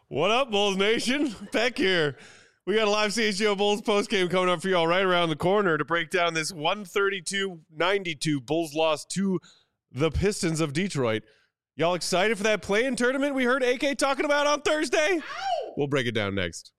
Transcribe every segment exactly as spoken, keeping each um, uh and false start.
What up, Bulls Nation? Peck here. We got a live C H G O Bulls postgame coming up for y'all right around the corner to break down this one thirty-two ninety-two Bulls loss to the Pistons of Detroit. Y'all excited for that play-in tournament we heard A K talking about on Thursday? We'll break it down next.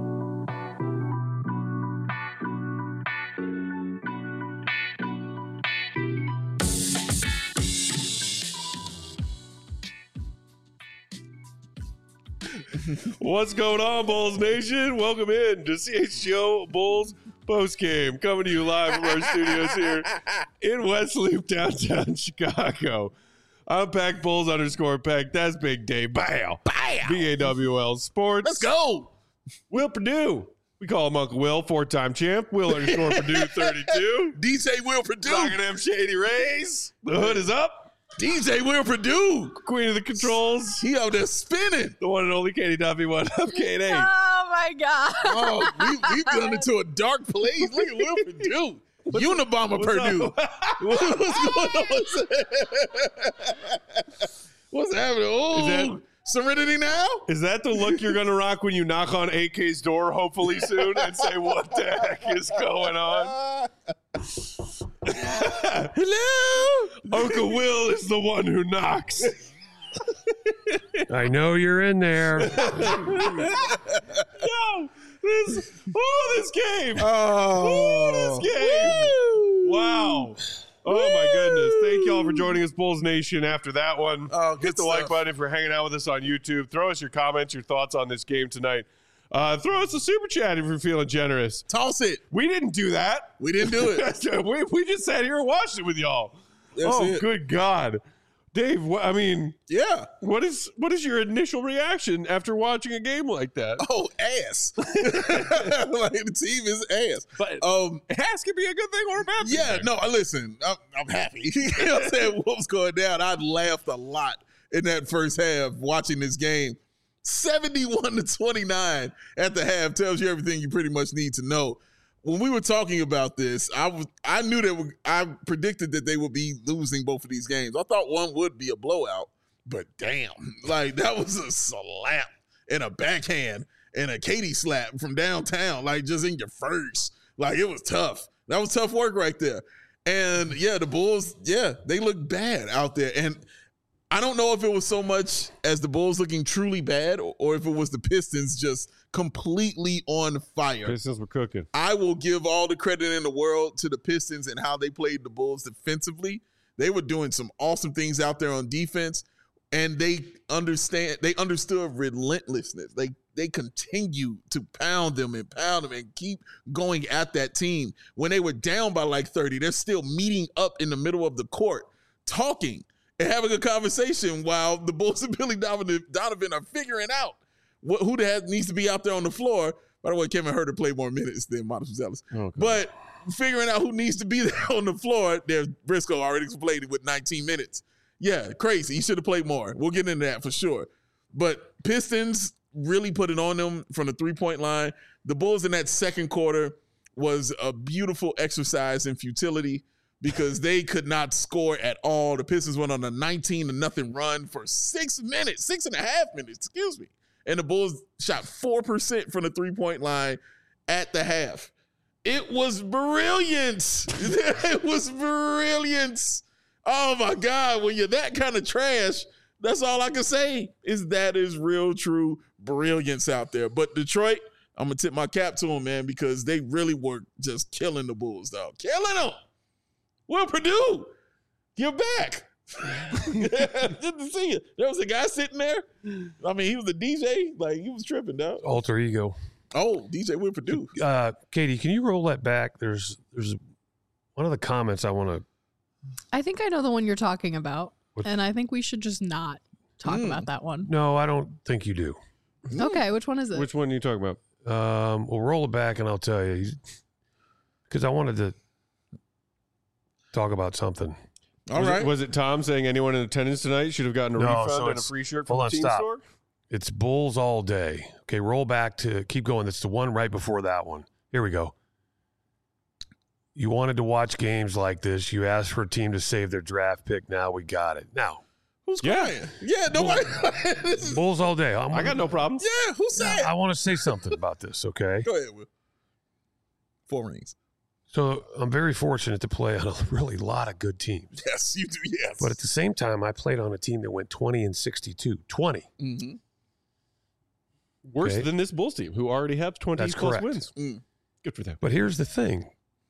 What's going on, Bulls Nation? Welcome in to C H G O Bulls postgame, coming to you live from our studios here in West Loop, downtown Chicago. I'm Peck Bulls underscore Peck. That's Big Dave. Bow. Bow. B A W L Sports. Let's go. Will Purdue. We call him Uncle Will, four-time champ. Will underscore Purdue thirty-two. D J Will Purdue. Rocking them Shady Rays. The hood is up. D J Will Purdue. Queen of the controls. He out there spinning. The one and only Katie Duffy. What up, Katie? Oh, my God. Oh, we, we've gone into a dark place. Look at Will Purdue. Unabomber Purdue. What's going on? What's happening? Oh, Serenity now? Is that the look you're going to rock when you knock on A K's door, hopefully soon, and say, what the heck is going on? Hello? Uncle Will is the one who knocks. I know you're in there. Yo, this, oh, this game. Oh, oh this game. Woo. Wow. Oh, my goodness. Thank y'all for joining us, Bulls Nation, after that one. Oh, Hit the stuff. like button if you're hanging out with us on YouTube. Throw us your comments, your thoughts on this game tonight. Uh, throw us a super chat if you're feeling generous. Toss it. We didn't do that. We didn't do it. we, we just sat here and watched it with y'all. That's oh, it. good God. Dave, wh- I mean, Yeah. what is what is your initial reaction after watching a game like that? Oh, ass. Like, the team is ass. But Um, ass can be a good thing or a bad thing. Yeah, no, listen, I'm, I'm happy. You know what I'm saying? What was going down? I laughed a lot in that first half watching this game. seventy-one to twenty-nine at the half tells you everything you pretty much need to know. When we were talking about this, I was I knew that we, I predicted that they would be losing both of these games. I thought one would be a blowout, but damn, like that was a slap and a backhand and a Katie slap from downtown, like just in your face. Like it was tough. That was tough work right there. And yeah, the Bulls, yeah, they look bad out there. And I don't know if it was so much as the Bulls looking truly bad or, or if it was the Pistons just completely on fire. Pistons were cooking. I will give all the credit in the world to the Pistons and how they played the Bulls defensively. They were doing some awesome things out there on defense, and they understand. They understood relentlessness. They they continue to pound them and pound them and keep going at that team. When they were down by like thirty, they're still meeting up in the middle of the court, talking and having a conversation while the Bulls and Billy Donovan, Donovan are figuring out what, who the heck needs to be out there on the floor. By the way, Kevin Huerter played more minutes than Montes Ellis. Okay. But figuring out who needs to be there on the floor, there's Briscoe already played it with nineteen minutes. Yeah, crazy. He should have played more. We'll get into that for sure. But Pistons really put it on them from the three-point line. The Bulls in that second quarter was a beautiful exercise in futility, because they could not score at all. The Pistons went on a nineteen to nothing run for six minutes, six and a half minutes, excuse me. And the Bulls shot four percent from the three-point line at the half. It was brilliant. It was brilliant. Oh, my God. When you're that kind of trash, that's all I can say is that is real, true brilliance out there. But Detroit, I'm going to tip my cap to them, man, because they really were just killing the Bulls, though. Killing them. Will Purdue, you're back. Good to see you. There was a guy sitting there. I mean, he was a D J. Like, he was tripping, dog. Alter ego. Oh, D J Will Purdue. Uh, Katie, can you roll that back? There's there's one of the comments I want to. I think I know the one you're talking about, What? and I think we should just not talk Mm. about that one. No, I don't think you do. Okay, which one is it? Which one are you talking about? Um, we'll roll it back and I'll tell you. Because I wanted to talk about something. All was right. It, was it Tom saying anyone in attendance tonight should have gotten a No, refund so and a it's- free shirt from hold the on, team stop. store? It's Bulls all day. Okay, roll back to keep going. That's the one right before that one. Here we go. You wanted to watch games like this. You asked for a team to save their draft pick. Now we got it. Now, Who's Yeah. crying? Yeah, nobody. This is- Bulls all day. I'm, I got no problems. yeah, who's saying? I want to say something about this, okay? Go ahead, Will. Four rings. So I'm very fortunate to play on a really lot of good teams. Yes, you do. Yes. But at the same time, I played on a team that went twenty and sixty-two. twenty. mm-hmm. Worse Okay. than this Bulls team, who already have twenty That's plus correct. wins. Mm. Good for them. But here's the thing.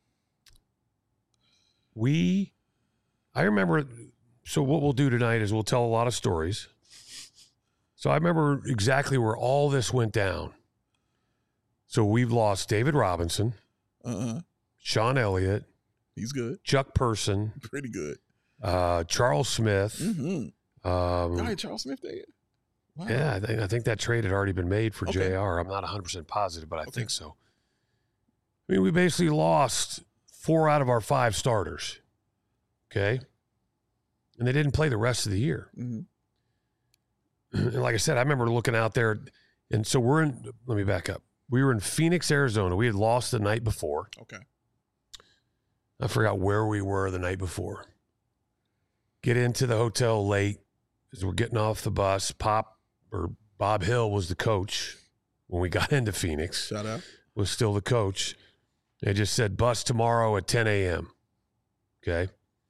We, I remember, so what we'll do tonight is we'll tell a lot of stories. So I remember exactly where all this went down. So we've lost David Robinson, Uh-uh. Sean Elliott, He's good. Chuck Person, Pretty good. uh, Charles Smith. Mm-hmm. Um, All right, Charles Smith there. Wow. yeah, I think, I think that trade had already been made for Okay. J R. I'm not one hundred percent positive, but I Okay. think so. I mean, we basically lost four out of our five starters. Okay. And they didn't play the rest of the year. Mm-hmm. And like I said, I remember looking out there. And so we're in, let me back up. We were in Phoenix, Arizona. We had lost the night before. Okay. I forgot where we were the night before. Get into the hotel late as we're getting off the bus. Pop or Bob Hill was the coach when we got into Phoenix, Shout out. was still the coach. They just said bus tomorrow at ten a.m. Okay.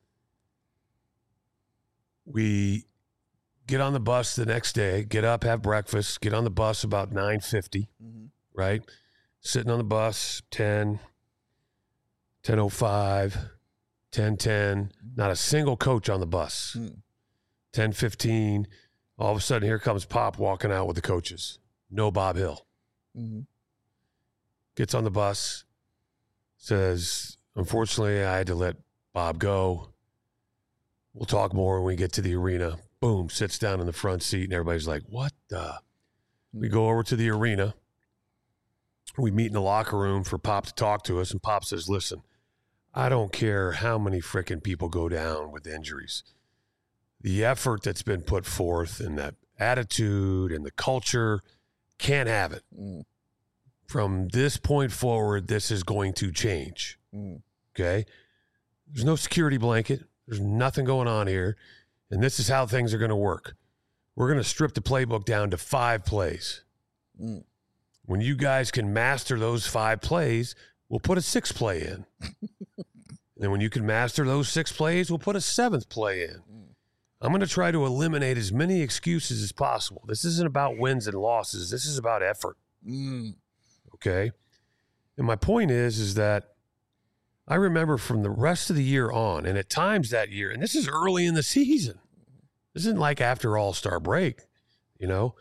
We get on the bus the next day, get up, have breakfast, get on the bus about nine fifty, Mm-hmm. right? Sitting on the bus, ten, ten oh five, ten ten, not a single coach on the bus. Mm. ten fifteen, all of a sudden here comes Pop walking out with the coaches. No Bob Hill. Mm-hmm. Gets on the bus, says, unfortunately, I had to let Bob go. We'll talk more when we get to the arena. Boom, sits down in the front seat, and everybody's like, what the? We go over to the arena. We meet in the locker room for Pop to talk to us, and Pop says, listen, I don't care how many freaking people go down with injuries. The effort that's been put forth and that attitude and the culture, can't have it. Mm. From this point forward, this is going to change. Mm. Okay? There's no security blanket. There's nothing going on here. And this is how things are going to work. We're going to strip the playbook down to five plays. Mm. When you guys can master those five plays, we'll put a six play in. And when you can master those six plays, we'll put a seventh play in. Mm. I'm going to try to eliminate as many excuses as possible. This isn't about wins and losses. This is about effort. Mm. Okay. And my point is, is that I remember from the rest of the year on, and at times that year, and this is early in the season. This isn't like after All-Star break, you know.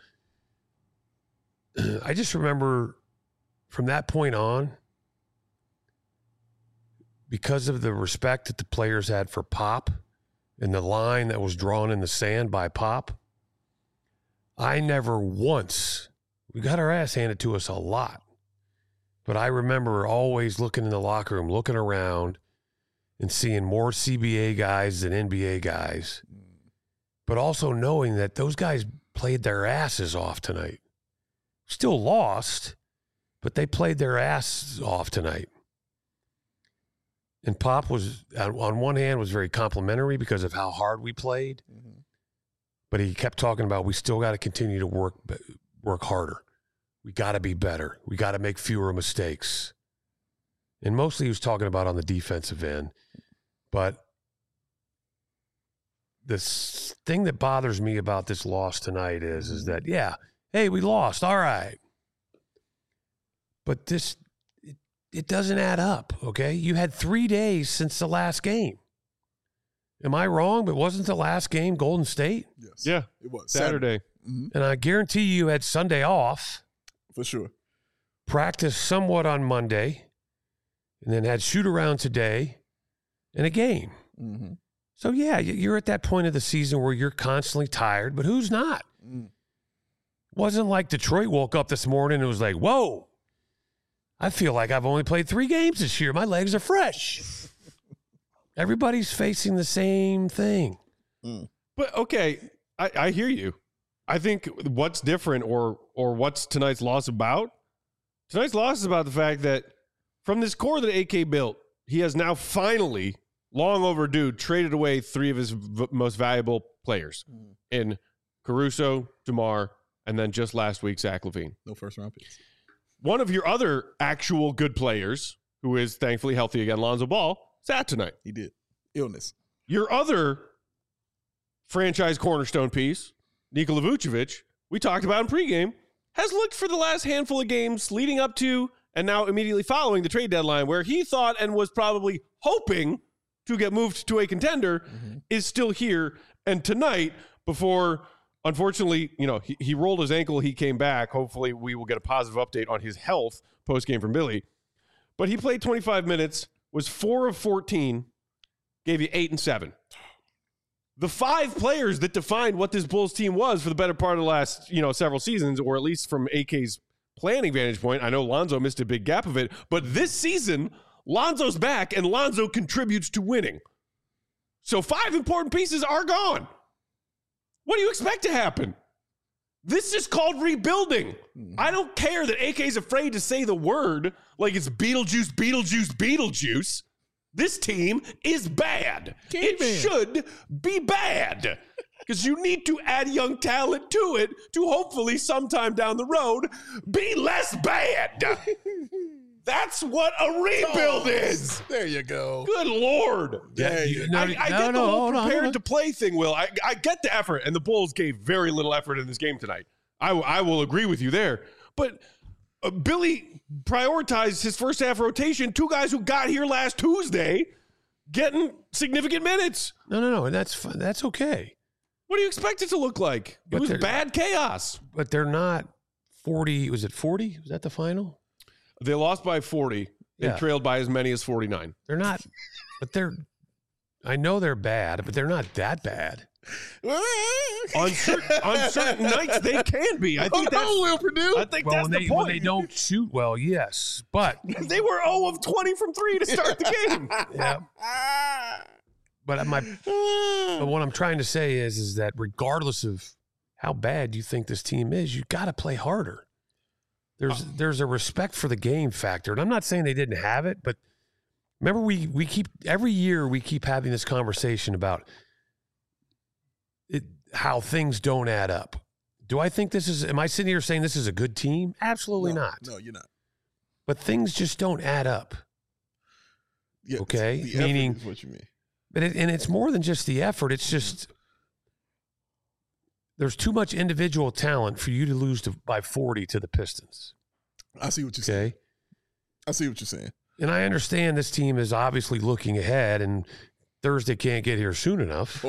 I just remember from that point on, because of the respect that the players had for Pop and the line that was drawn in the sand by Pop, I never once, we got our ass handed to us a lot. But I remember always looking in the locker room, looking around and seeing more C B A guys than N B A guys, but also knowing that those guys played their asses off tonight. Still lost, but they played their asses off tonight. And Pop was, on one hand, was very complimentary because of how hard we played, Mm-hmm. but he kept talking about we still got to continue to work work harder. We got to be better. We got to make fewer mistakes. And mostly he was talking about on the defensive end. But the s- thing that bothers me about this loss tonight is, is that, yeah, hey, we lost. All right. But this, it, it doesn't add up, okay? You had three days since the last game. Am I wrong? But wasn't the last game Golden State? Yes. Yeah. It was Saturday. Mm-hmm. And I guarantee you had Sunday off. For sure. Practiced somewhat on Monday, and then had shoot around today and a game. Mm-hmm. So, yeah, y- you're at that point of the season where you're constantly tired, but who's not? Mm. Wasn't like Detroit woke up this morning and was like, whoa, I feel like I've only played three games this year. My legs are fresh. Everybody's facing the same thing. Mm. But okay, I, I hear you. I think what's different or or what's tonight's loss about? Tonight's loss is about the fact that from this core that A K built, he has now finally long overdue, traded away three of his v- most valuable players mm. in Caruso, DeMar, and then just last week, Zach LaVine. No first round picks. One of your other actual good players, who is thankfully healthy again, Lonzo Ball, sat tonight. He did. Illness. Your other franchise cornerstone piece, Nikola Vucevic, we talked about in pregame, has looked for the last handful of games leading up to and now immediately following the trade deadline, where he thought and was probably hoping to get moved to a contender, mm-hmm. is still here. And tonight, before, unfortunately, you know, he, he rolled his ankle, he came back. Hopefully we will get a positive update on his health post-game from Billy. But he played twenty-five minutes, was four of fourteen, gave you eight and seven. The five players that defined what this Bulls team was for the better part of the last, you know, several seasons, or at least from A K's planning vantage point. I know Lonzo missed a big gap of it, but this season, Lonzo's back and Lonzo contributes to winning. So five important pieces are gone. What do you expect to happen? This is called rebuilding. Mm-hmm. I don't care that A K's afraid to say the word like it's Beetlejuice, Beetlejuice, Beetlejuice. This team is bad. It man. should be bad because you need to add young talent to it to hopefully sometime down the road be less bad. That's what a rebuild oh, is. There you go. Good Lord. Yeah, you, no, I, I no, get no, the whole hold on, prepared hold on. to play thing, Will. I, I get the effort, and the Bulls gave very little effort in this game tonight. I, I will agree with you there. But uh, Billy prioritized his first half rotation, two guys who got here last Tuesday, getting significant minutes. No, no, no, and that's fun. That's okay. What do you expect it to look like? It But was they're- bad chaos. But they're not forty. Was it forty? Was that the final? They lost by forty and Yeah. trailed by as many as forty-nine. They're not. But they're. I know they're bad, but they're not that bad. On certain, on certain nights, they can be. I think Hold that's on, Will Purdue. I think Well, that's when the they point. when they don't shoot well, yes, but They were zero of twenty from three to start the game. yeah. But my, but what I'm trying to say is, is that regardless of how bad you think this team is, you got to play harder. There's there's a respect for the game factor, and I'm not saying they didn't have it, but remember we we keep every year we keep having this conversation about it, how things don't add up. Do I think this is? Am I sitting here saying this is a good team? Absolutely no, not. No, you're not. But things just don't add up. Yeah, Okay, the effort meaning- is what you mean. But it, and it's more than just the effort. It's just there's too much individual talent for you to lose to, by forty to the Pistons. I see what you're saying. Okay, I see what you're saying. and I understand this team is obviously looking ahead, and Thursday can't get here soon enough.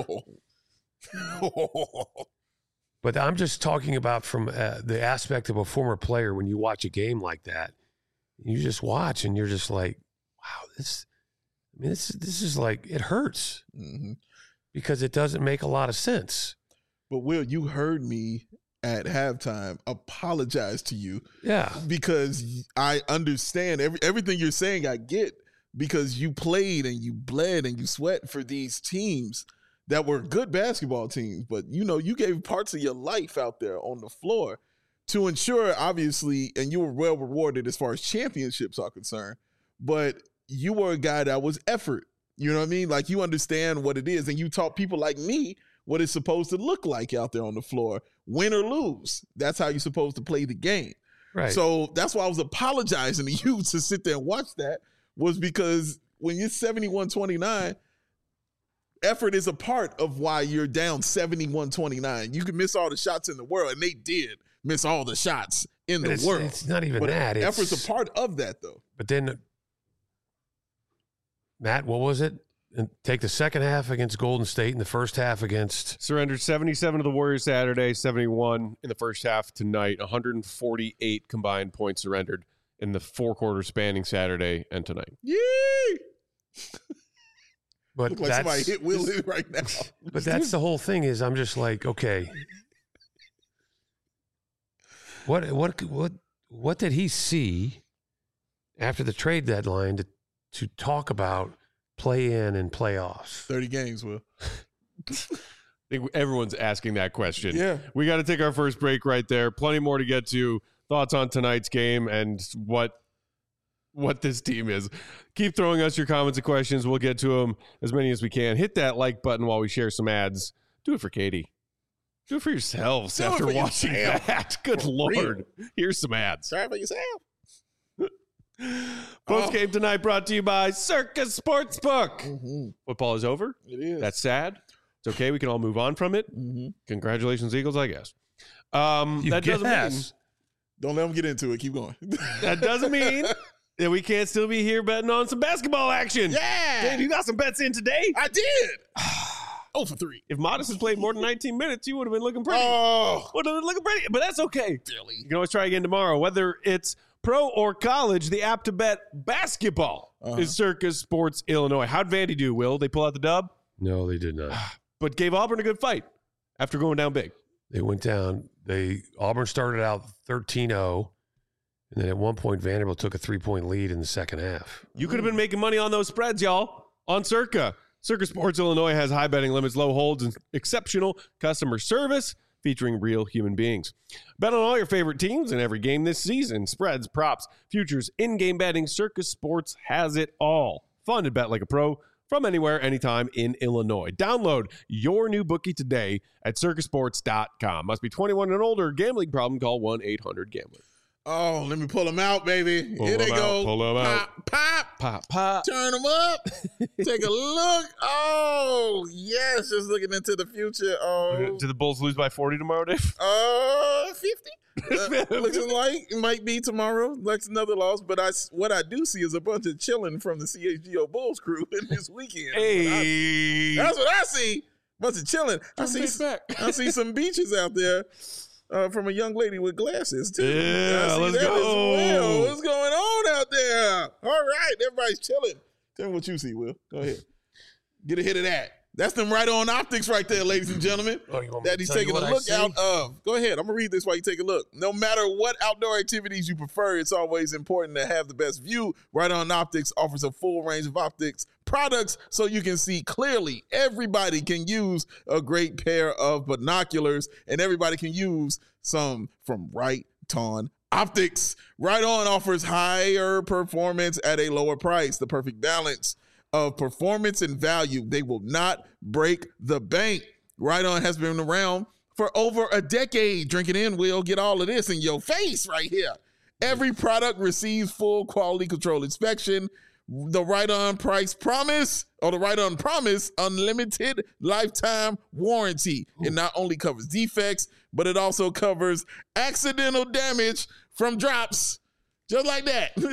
But I'm just talking about from uh, the aspect of a former player. When you watch a game like that, you just watch and you're just like, wow, this. I mean, this this is like it hurts Mm-hmm. because it doesn't make a lot of sense. But Will, you heard me at halftime apologize to you Yeah. because I understand every, everything you're saying. I get because you played and you bled and you sweat for these teams that were good basketball teams. But, you know, you gave parts of your life out there on the floor to ensure, obviously, and you were well rewarded as far as championships are concerned. But you were a guy that was effort. You know what I mean? Like, you understand what it is. And you taught people like me what it's supposed to look like out there on the floor, win or lose. That's how you're supposed to play the game. Right. So that's why I was apologizing to you to sit there and watch that, was because when you're seventy-one twenty-nine, effort is a part of why you're down seventy-one twenty-nine. You can miss all the shots in the world, and they did miss all the shots in But the it's, world. it's not even But that. It's, effort's a part of that, though. But then, Matt, what was it? And take the second half against Golden State and the first half against. Surrendered seventy-seven to the Warriors Saturday, seventy-one in the first half tonight, one hundred forty-eight combined points surrendered in the four quarters spanning Saturday and tonight. Yee! But Look like that's, somebody hit Will in right now. But that's the whole thing. Is I'm just like, okay, what what what what did he see after the trade deadline to to talk about play in and playoffs? thirty games, Will. I think everyone's asking that question. Yeah. We got to take our first break right there. Plenty more to get to. Thoughts on tonight's game and what what this team is. Keep throwing us your comments and questions. We'll get to them as many as we can. Hit that like button while we share some ads. Do it for Katie. Do it for yourselves Do it after for watching yourself. that. Good For Lord. real. Here's some ads. Sorry for yourself. Post Oh. game tonight brought to you by Circus Sportsbook. Mm-hmm. Football is over. It is. That's sad. It's okay. We can all move on from it. Mm-hmm. Congratulations, Eagles, I guess. Um, You that doesn't mean guess. Don't let them get into it. Keep going. that doesn't mean that we can't still be here betting on some basketball action. Yeah. Dave, you got some bets in today. I did. Oh for three. If Modest has played more than nineteen minutes, you would have been looking pretty. Oh. Would have been looking pretty, but that's okay. Really? You can always try again tomorrow. Whether it's pro or college, the app to bet basketball Uh-huh. is Circus Sports Illinois. How'd Vandy do, Will? They pull out the dub, No, they did not. but gave Auburn a good fight after going down big. They went down. They Auburn started out thirteen oh, and then at one point Vanderbilt took a three-point lead in the second half. You could have been making money on those spreads, y'all, on Circa. Circa Sports Illinois has high betting limits, low holds, and exceptional customer service featuring real human beings. Bet on all your favorite teams in every game this season. Spreads, props, futures, in-game betting. Circa Sports has it all. Fun to bet like a pro from anywhere, anytime in Illinois. Download your new bookie today at circus sports dot com. Must be twenty-one and older. Gambling problem, call one eight hundred gambler. Oh, let me pull them out, baby. Pull Here they them go. out, pull them out. Pop, pop. Pop, pop. Turn them up. Take a look. Oh, yes. Just looking into the future. Oh, Did the Bulls lose by forty tomorrow, Dave? uh, fifty. Uh, looks like it might be tomorrow. That's another loss. But I, what I do see is a bunch of chilling from the C H G O Bulls crew in this weekend. Hey. That's what I see. Bunch of chilling. I see. back. I see some beaches out there uh, from a young lady with glasses too. Yeah, I see let's that as go. well. What's going on out there? All right, everybody's chilling. Tell me what you see, Will. Go ahead. Get a hit of that. That's them right on optics right there, ladies and gentlemen. Oh, you want me That to he's tell you taking a what I look see? out of. Go ahead. I'm gonna read this while you take a look. No matter what outdoor activities you prefer, it's always important to have the best view. Right On Optics offers a full range of optics products so you can see clearly. Everybody can use a great pair of binoculars, and everybody can use some from Right On Optics. Right On offers higher performance at a lower price, the perfect balance of performance and value. They will not break the bank. Right On has been around for over a decade. Drink it in, Will. Get all of this in your face right here. Every product receives full quality control inspection. The Right On price promise, or the Right On promise, unlimited lifetime warranty. It not only covers defects, but it also covers accidental damage from drops. Just like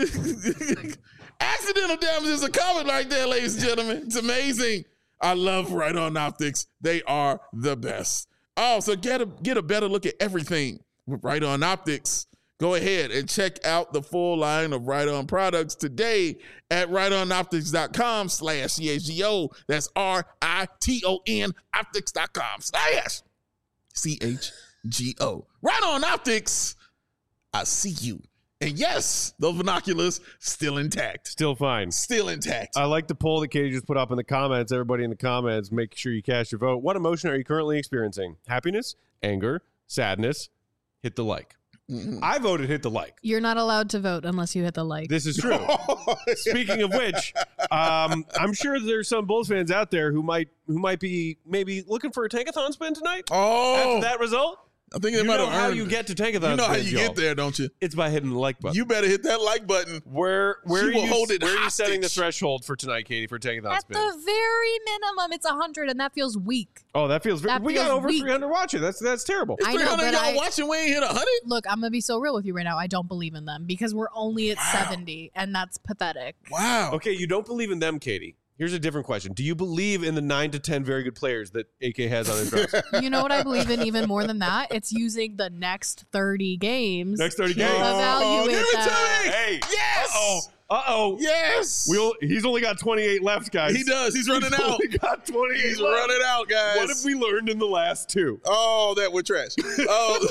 that. Accidental damages are covered like that, ladies and gentlemen. It's amazing. I love Right On Optics. They are the best. Oh, so get a get a better look at everything with Right On Optics. Go ahead and check out the full line of Right On products today at right on optics dot com slash C H G O. That's R I T O N optics dot com slash C H G O. Right On Optics. I see you. And yes, those binoculars still intact. Still fine. Still intact. I like the poll that Katie just put up in the comments. Everybody in the comments, make sure you cast your vote. What emotion are you currently experiencing? Happiness, anger, sadness? Hit the like. Mhm. I voted hit the like. You're not allowed to vote unless you hit the like. This is true. Speaking of which, um, I'm sure there's some Bulls fans out there who might who might be maybe looking for a tankathon spin tonight. Oh, After that result, I think they you might know have how earned you it. get to tankathon. You know how spins, you y'all. get there, don't you? It's by hitting the like button. You better hit that like button. Where where She are will you, hold it where are you setting the hostage. threshold for tonight, Katie, for tankathon At spin? the very minimum, it's one hundred, and that feels weak. Oh, that feels very. That We got feels over weak. three hundred watching. That's that's terrible. I know, three hundred but y'all I- watching, we ain't hit one hundred? Look, I'm gonna be so real with you right now. I don't believe in them because we're only at Wow. seventy, and that's pathetic. Wow. Okay, you don't believe in them, Katie. Here's a different question. Do you believe in the nine to ten very good players that A K has on his roster? You know what I believe in even more than that? It's using the next thirty games. Next thirty to games. evaluate give it that. to me. Hey. Yes. Uh-oh. Uh-oh. Yes. We'll, he's only got twenty-eight left, guys. He does. He's running He's out. only got twenty-eight He's left. running out, guys. What have we learned in the last two? Oh, that we're trash. Oh,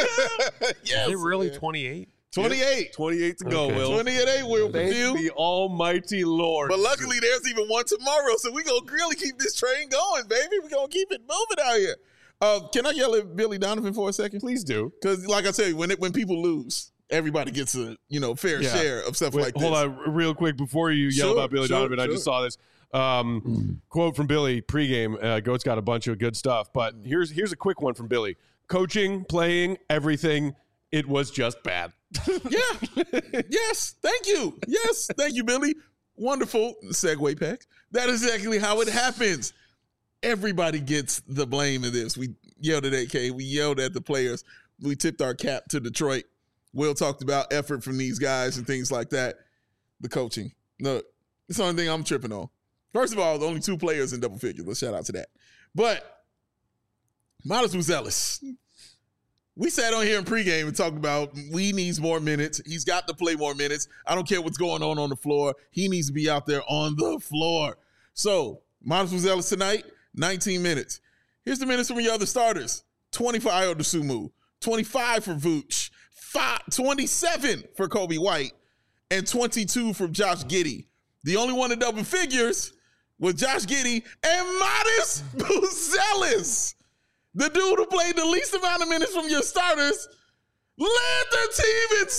yes. Is it really man. twenty-eight? twenty-eight. twenty-eight to go, Okay. Will. twenty-eight, Will. Thank Purdue. the almighty Lord. But luckily, there's even one tomorrow, so we gonna really keep this train going, baby. We gonna keep it moving out here. Uh, can I yell at Billy Donovan for a second? Please do. Because, like I said, when it, when people lose, everybody gets a you know fair Yeah. share of stuff Wait, like this. hold on, real quick before you yell Sure, about Billy sure, Donovan. I sure. just saw this um, quote from Billy pregame. Uh, Goat's got a bunch of good stuff, but here's here's a quick one from Billy: coaching, playing, everything. It was just bad. Yeah. Yes. Thank you. Yes. Thank you, Billy. Wonderful segue, Peck. That is exactly how it happens. Everybody gets the blame of this. We yelled at A K. We yelled at the players. We tipped our cap to Detroit. Will talked about effort from these guys and things like that. The coaching. Look, it's the only thing I'm tripping on. First of all, the only two players in double figures. Let's shout out to that. But Miles Buzelis. We sat on here in pregame and talked about we needs more minutes. He's got to play more minutes. I don't care what's going on on the floor. He needs to be out there on the floor. So, Miles Buzelis tonight, nineteen minutes. Here's the minutes from your other starters. twenty for Ayo Dosunmu, twenty-five for Vooch, five, twenty-seven for Kobe White, and twenty-two from Josh Giddey. The only one in double figures was Josh Giddey and Miles Buzelis. The dude who played the least amount of minutes from your starters led the team in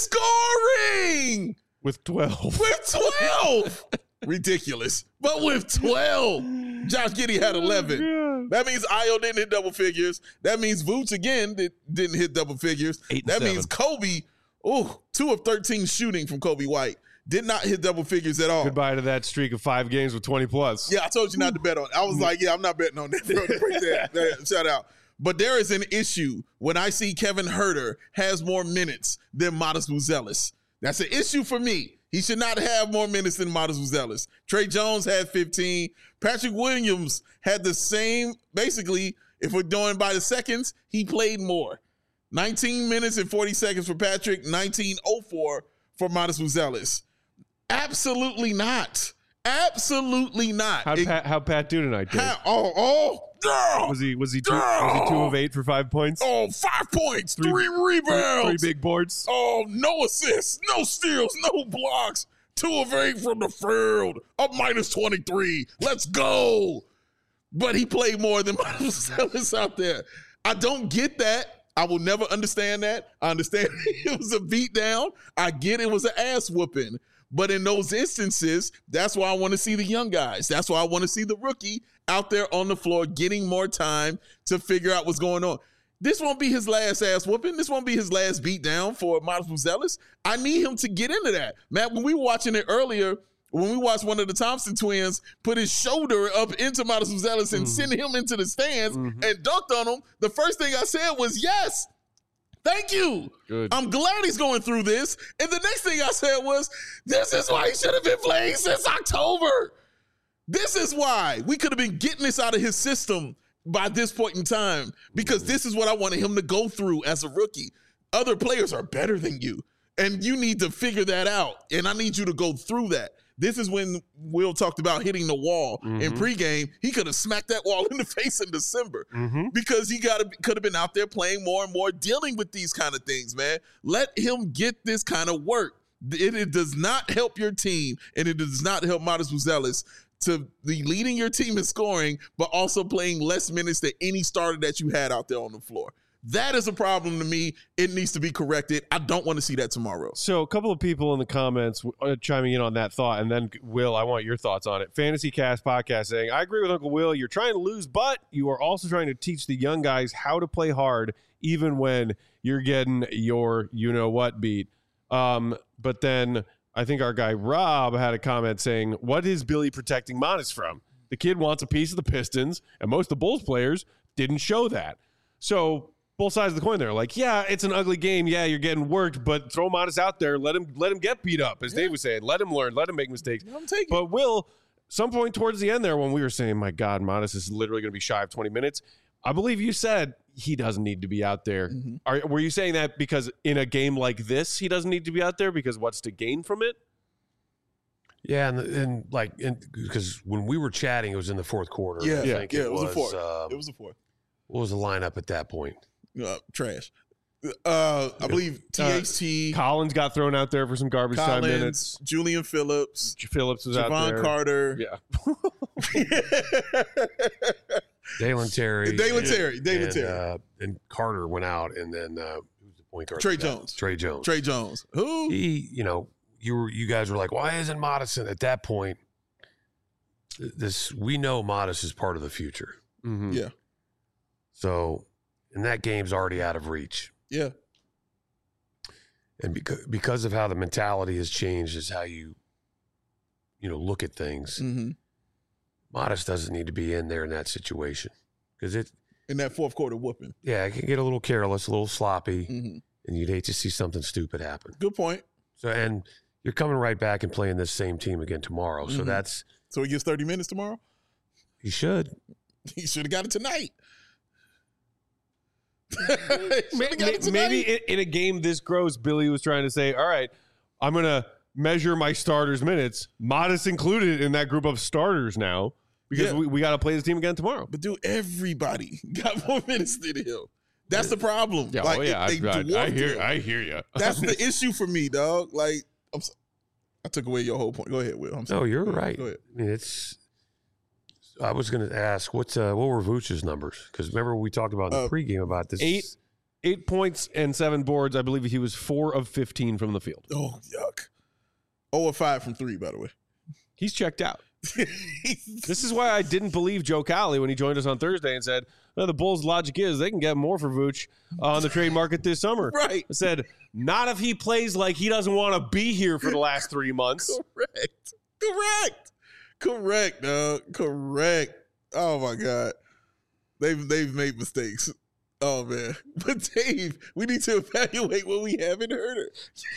scoring With twelve. with twelve. Ridiculous. But with twelve, Josh Giddey had eleven. That means Ayo didn't hit double figures. That means Vooch again did, didn't hit double figures. Eight and that seven. means Kobe, oh, two of thirteen shooting from Kobe White. Did not hit double figures at all. Goodbye to that streak of five games with twenty plus. Yeah, I told you not to bet on it. I was like, yeah, I'm not betting on that. Bro. Break that. Yeah, shout out. But there is an issue when I see Kevin Huerter has more minutes than Miles Buzelis. That's an issue for me. He should not have more minutes than Miles Buzelis. Trey Jones had fifteen. Patrick Williams had the same, basically, if we're going by the seconds, he played more. nineteen minutes and forty seconds for Patrick, nineteen oh four for Miles Buzelis. Absolutely not. Absolutely not. How'd It- Pat, how'd Pat do tonight, Dave? how- oh, oh, girl. Was he was he two, was he two of eight for five points? Oh, five points, Three- three, rebounds. Three big boards. Oh, no assists, no steals, no blocks. Two of eight from the field. Up minus twenty-three. Let's go. But he played more than Miles Ellis out there. I don't get that. I will never understand that. I understand it was a beatdown. I get it was an ass whooping. But in those instances, that's why I want to see the young guys. That's why I want to see the rookie out there on the floor getting more time to figure out what's going on. This won't be his last ass whooping. This won't be his last beatdown for Miles Buzelis. I need him to get into that. Matt, when we were watching it earlier, when we watched one of the Thompson twins put his shoulder up into Miles Buzelis and Mm. send him into the stands Mhm. and dunked on him, the first thing I said was, yes, thank you. Good. I'm glad he's going through this. And the next thing I said was, this is why he should have been playing since October. This is why we could have been getting this out of his system by this point in time, because this is what I wanted him to go through as a rookie. Other players are better than you, and you need to figure that out. And I need you to go through that. This is when Will talked about hitting the wall in Mhm. pregame. He could have smacked that wall in the face in December Mm-hmm. because he got could have been out there playing more and more, dealing with these kind of things, man. Let him get this kind of work. It, it does not help your team, and it does not help Miles Buzelis to be leading your team in scoring, but also playing less minutes than any starter that you had out there on the floor. That is a problem to me. It needs to be corrected. I don't want to see that tomorrow. So a couple of people in the comments uh, chiming in on that thought, and then Will, I want your thoughts on it. Fantasy Cast Podcast saying, I agree with Uncle Will. You're trying to lose, but you are also trying to teach the young guys how to play hard, even when you're getting your you-know-what beat. Um, but then I think our guy Rob had a comment saying, what is Billy protecting Monis from? The kid wants a piece of the Pistons, and most of the Bulls players didn't show that. So both sides of the coin there. Like, yeah, it's an ugly game. Yeah, you're getting worked, but throw Modest out there. Let him let him get beat up, as Dave was saying. Let him learn. Let him make mistakes. I'm taking But Will, some point towards the end there when we were saying, my God, Modest is literally going to be shy of twenty minutes, I believe you said he doesn't need to be out there. Mhm. Are, were you saying that because in a game like this, he doesn't need to be out there because what's to gain from it? Yeah, and, and like, because when we were chatting, it was in the fourth quarter. Yeah, I yeah, think yeah, it was a fourth. um, It was a four. what was the lineup at that point? Uh, trash. Uh, I believe T H T, Collins got thrown out there for some garbage time Collins, minutes. Julian Phillips, Phillips was out Javon there. Carter. Yeah. Dalen Terry. Dalen and- Terry. Dalen and, Terry. Uh, and Carter went out, and then uh, who's the point guard. Trey they got. Jones. Trey Jones. Trey Jones. Who? He, you know, you were you guys were like, why isn't Modison at that point? This we know Modis is part of the future. Mhm. Yeah. So, and that game's already out of reach. Yeah. And because because of how the mentality has changed, is how you, you know, look at things. Mm-hmm. Modis doesn't need to be in there in that situation because it, In that fourth quarter whooping. yeah, it can get a little careless, a little sloppy, Mm-hmm. and you'd hate to see something stupid happen. Good point. So, and you're coming right back and playing this same team again tomorrow. So Mhm. that's So he gets thirty minutes tomorrow? you should. He should have got it tonight. Maybe, maybe in, in a game this gross, Billy was trying to say, all right, I'm going to measure my starters' minutes. Modest included in that group of starters now because Yeah. we, we got to play this team again tomorrow. But dude, everybody got more minutes than him. That's the problem. Yeah, like, oh, yeah, it- they I, I, I dwarfed hear him. I hear you. That's the issue for me, dog. Like, I'm so, I took away your whole point. Go ahead, Will. I'm No, sorry. you're Go ahead. right. Go ahead. I mean, it's. I was going to ask what's uh, what were Vooch's numbers? Because remember we talked about in the Uh, pregame about this. Eight eight points and seven boards. I believe he was four of fifteen from the field. Oh, yuck. oh of five from three, by the way. He's checked out. This is why I didn't believe Joe Cowley when he joined us on Thursday and said, well, the Bulls' logic is they can get more for Vooch on the trade market this summer. Right. I said, not if he plays like he doesn't want to be here for the last three months. Correct. Correct. Correct, dog. Correct. Oh my God. They've they've made mistakes. Oh man. But Dave, we need to evaluate what we have in Herder.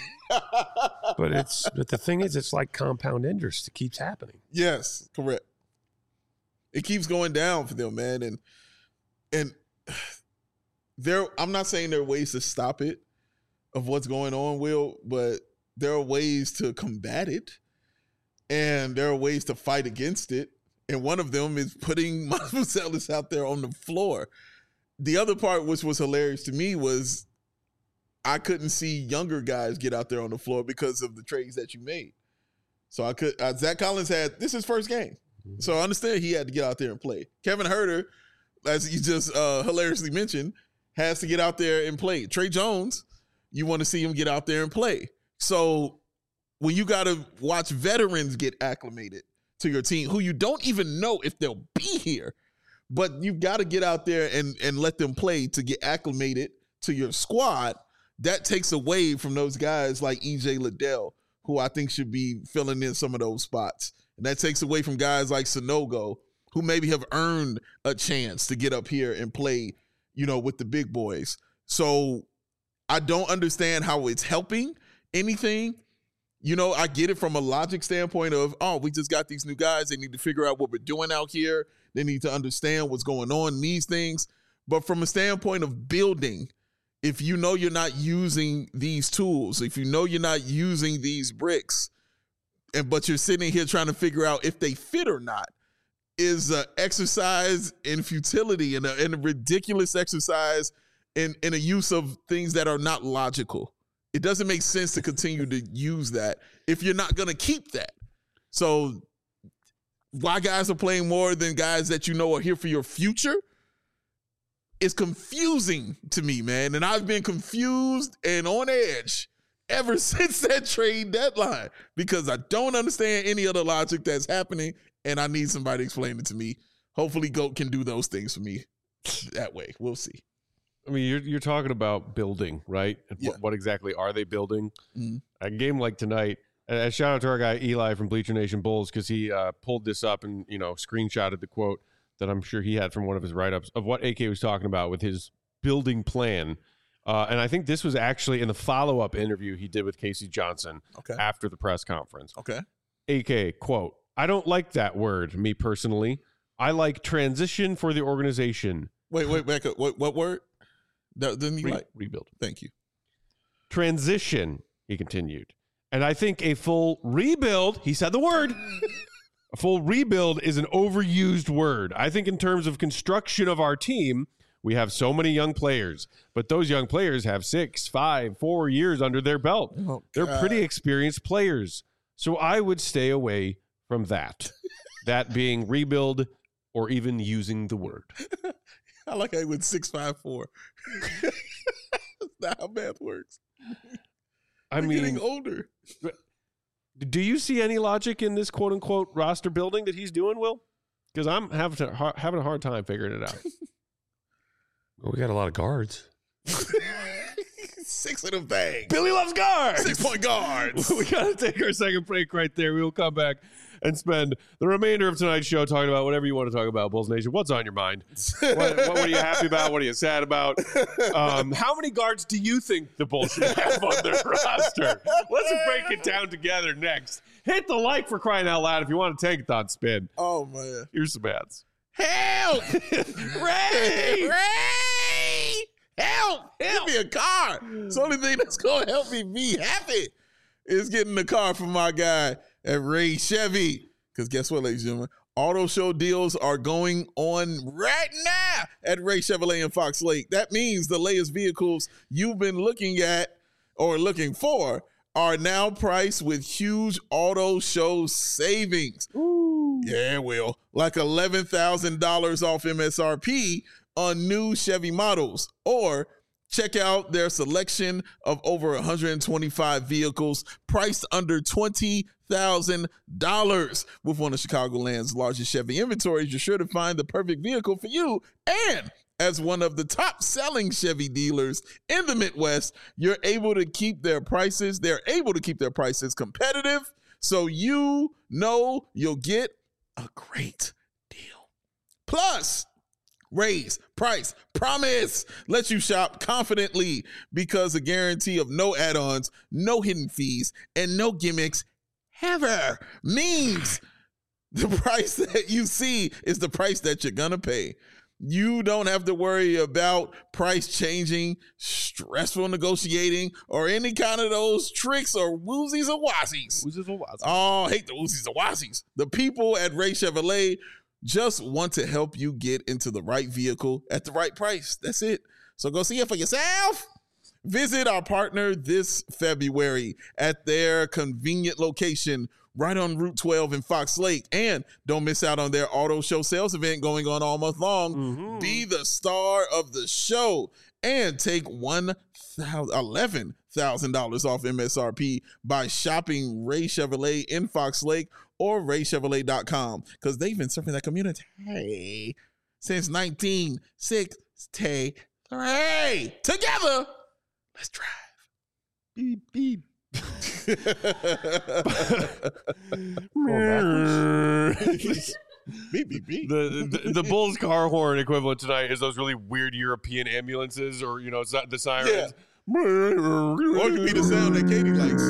But it's but the thing is, it's like compound interest. It keeps happening. Yes, correct. It keeps going down for them, man. And and there I'm not saying there are ways to stop it of what's going on, Will, but there are ways to combat it. And there are ways to fight against it. And one of them is putting Marcellus out there on the floor. The other part, which was hilarious to me, was I couldn't see younger guys get out there on the floor because of the trades that you made. So I could, uh, Zach Collins had, this is his first game. So I understand he had to get out there and play. Kevin Herter, as you just uh, hilariously mentioned, has to get out there and play. Trey Jones, you want to see him get out there and play. So when you got to watch veterans get acclimated to your team who you don't even know if they'll be here, but you've got to get out there and, and let them play to get acclimated to your squad, that takes away from those guys like E J Liddell, who I think should be filling in some of those spots. And that takes away from guys like Sanogo, who maybe have earned a chance to get up here and play, you know, with the big boys. So I don't understand how it's helping anything. You know, I get it from a logic standpoint of, oh, we just got these new guys. They need to figure out what we're doing out here. They need to understand what's going on in these things. But from a standpoint of building, if you know you're not using these tools, if you know you're not using these bricks, and but you're sitting here trying to figure out if they fit or not, is an exercise in futility and a, and a ridiculous exercise in, in a use of things that are not logical. It doesn't make sense to continue to use that if you're not going to keep that. So why guys are playing more than guys that you know are here for your future is confusing to me, man. And I've been confused and on edge ever since that trade deadline because I don't understand any of the logic that's happening, and I need somebody to explain it to me. Hopefully GOAT can do those things for me that way. We'll see. I mean, you're you're talking about building, right? And Yeah. what, what exactly are they building? Mhm. A game like tonight, and and shout out to our guy Eli from Bleacher Nation Bulls because he uh, pulled this up and, you know, screenshotted the quote that I'm sure he had from one of his write-ups of what A K was talking about with his building plan. Uh, and I think this was actually in the follow-up interview he did with Casey Johnson Okay. after the press conference. Okay. A K, quote, I don't like that word, me personally. I like transition for the organization. Wait, wait, back up. What, what word? That, didn't you Re- like? rebuild. Thank you. Transition, he continued. And I think a full rebuild, he said the word, a full rebuild is an overused word. I think in terms of construction of our team, we have so many young players, but those young players have six, five, four years under their belt. Oh, They're God. pretty experienced players. So I would stay away from that. That being rebuild or even using the word. I like how he went six five four. That's not how math works. I We're mean, getting older. do you see any logic in this quote unquote roster building that he's doing, Will? Because I'm having to, ha- having a hard time figuring it out. Well, we got a lot of guards. Six of them things. Billy loves guards. Six point guards. We got to take our second break right there. We will come back and spend the remainder of tonight's show talking about whatever you want to talk about, Bulls Nation. What's on your mind? What, what, what are you happy about? What are you sad about? Um, how many guards do you think the Bulls should have on their roster? Let's break it down together next. Hit the like for crying out loud if you want to take it on spin. Oh, man. Here's some ads. Help! Ray! Ray! Help! Give me a car. It's the only thing that's going to help me be happy is getting the car from my guy at Ray Chevy. Because guess what, ladies and gentlemen? Auto show deals are going on right now at Ray Chevrolet in Fox Lake. That means the latest vehicles you've been looking at or looking for are now priced with huge auto show savings. Ooh. Yeah, Will. Like eleven thousand dollars off M S R P on new Chevy models. Or check out their selection of over one hundred twenty-five vehicles priced under twenty thousand dollars. With one of Chicagoland's largest Chevy inventories, you're sure to find the perfect vehicle for you. And as one of the top selling Chevy dealers in the Midwest, you're able to keep their prices. They're able to keep their prices competitive. So you know you'll get a great deal. Plus, Raise, price, promise. Let you shop confidently because a guarantee of no add-ons, no hidden fees, and no gimmicks ever means the price that you see is the price that you're going to pay. You don't have to worry about price changing, stressful negotiating, or any kind of those tricks or woozies or wazies. Woozies or wazies. Oh, I hate the woozies or wazies. The people at Ray Chevrolet just want to help you get into the right vehicle at the right price. That's it. So go see it for yourself. Visit our partner this February at their convenient location right on Route twelve in Fox Lake. And don't miss out on their auto show sales event going on all month long. Mm-hmm. Be the star of the show and take one thousand, eleven thousand dollars off M S R P by shopping Ray Chevrolet in Fox Lake or ray chevrolet dot com because they've been serving that community since nineteen sixty-three. Together, let's drive. Beep, beep. Beep, beep, beep. The, the the Bulls car horn equivalent tonight is those really weird European ambulances or, you know, the sirens. Yeah. Or it could be the sound that Katie likes.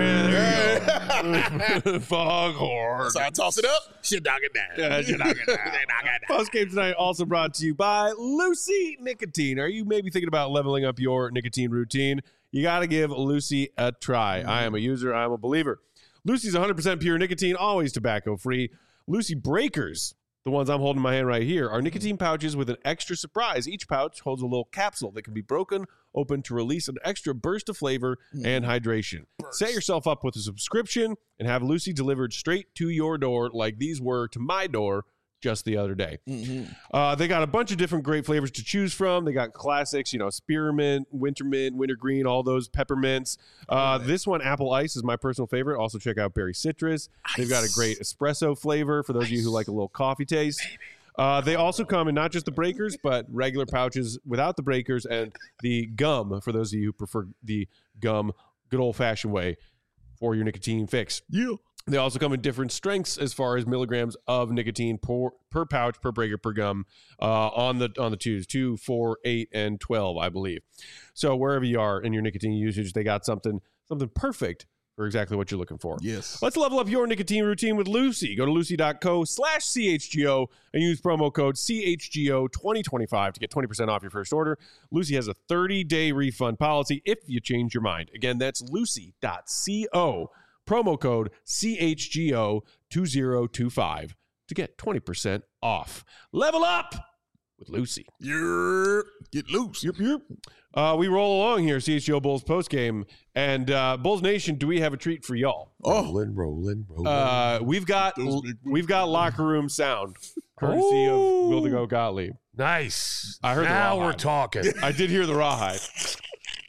Yeah, there you go. Foghorn. So I toss it up, she knock it down. Yeah, she knock it down. Post game tonight also brought to you by Lucy Nicotine. Are you maybe thinking about leveling up your nicotine routine? You got to give Lucy a try. Mm-hmm. I am a user. I am a believer. Lucy's one hundred percent pure nicotine, always tobacco free. Lucy Breakers, the ones I'm holding in my hand right here, are nicotine pouches with an extra surprise. Each pouch holds a little capsule that can be broken open to release an extra burst of flavor mm. and hydration. Burst. Set yourself up with a subscription and have Lucy delivered straight to your door like these were to my door just the other day. Mm-hmm. Uh, they got a bunch of different great flavors to choose from. They got classics, you know, spearmint, wintermint, wintergreen, all those peppermints. Uh, this one, apple ice, is my personal favorite. Also check out berry citrus. Ice. They've got a great espresso flavor for those ice. of you who like a little coffee taste. Uh, they also come in not just the breakers, but regular pouches without the breakers and the gum for those of you who prefer the gum good old-fashioned way for your nicotine fix. Yeah. They also come in different strengths as far as milligrams of nicotine per, per pouch, per breaker, per gum uh, on the on the twos, two, four, eight, and twelve, I believe. So wherever you are in your nicotine usage, they got something something perfect for exactly what you're looking for. Yes. Let's level up your nicotine routine with Lucy. Go to lucy.co slash CHGO and use promo code C H G O twenty twenty-five to get twenty percent off your first order. Lucy has a thirty-day refund policy if you change your mind. Again, that's lucy.co. Promo code C H G O twenty twenty-five to get twenty percent off. Level up with Lucy. Yep. Get loose. Yep, yep. Uh, we roll along here, C H G O Bulls postgame. And uh, Bulls Nation, do we have a treat for y'all? Oh. Rolling, rolling, rolling. Uh, we've got we've got locker room sound, courtesy Ooh. of Wildigo Gottlieb. Nice. I heard now the we're talking. I did hear the rawhide.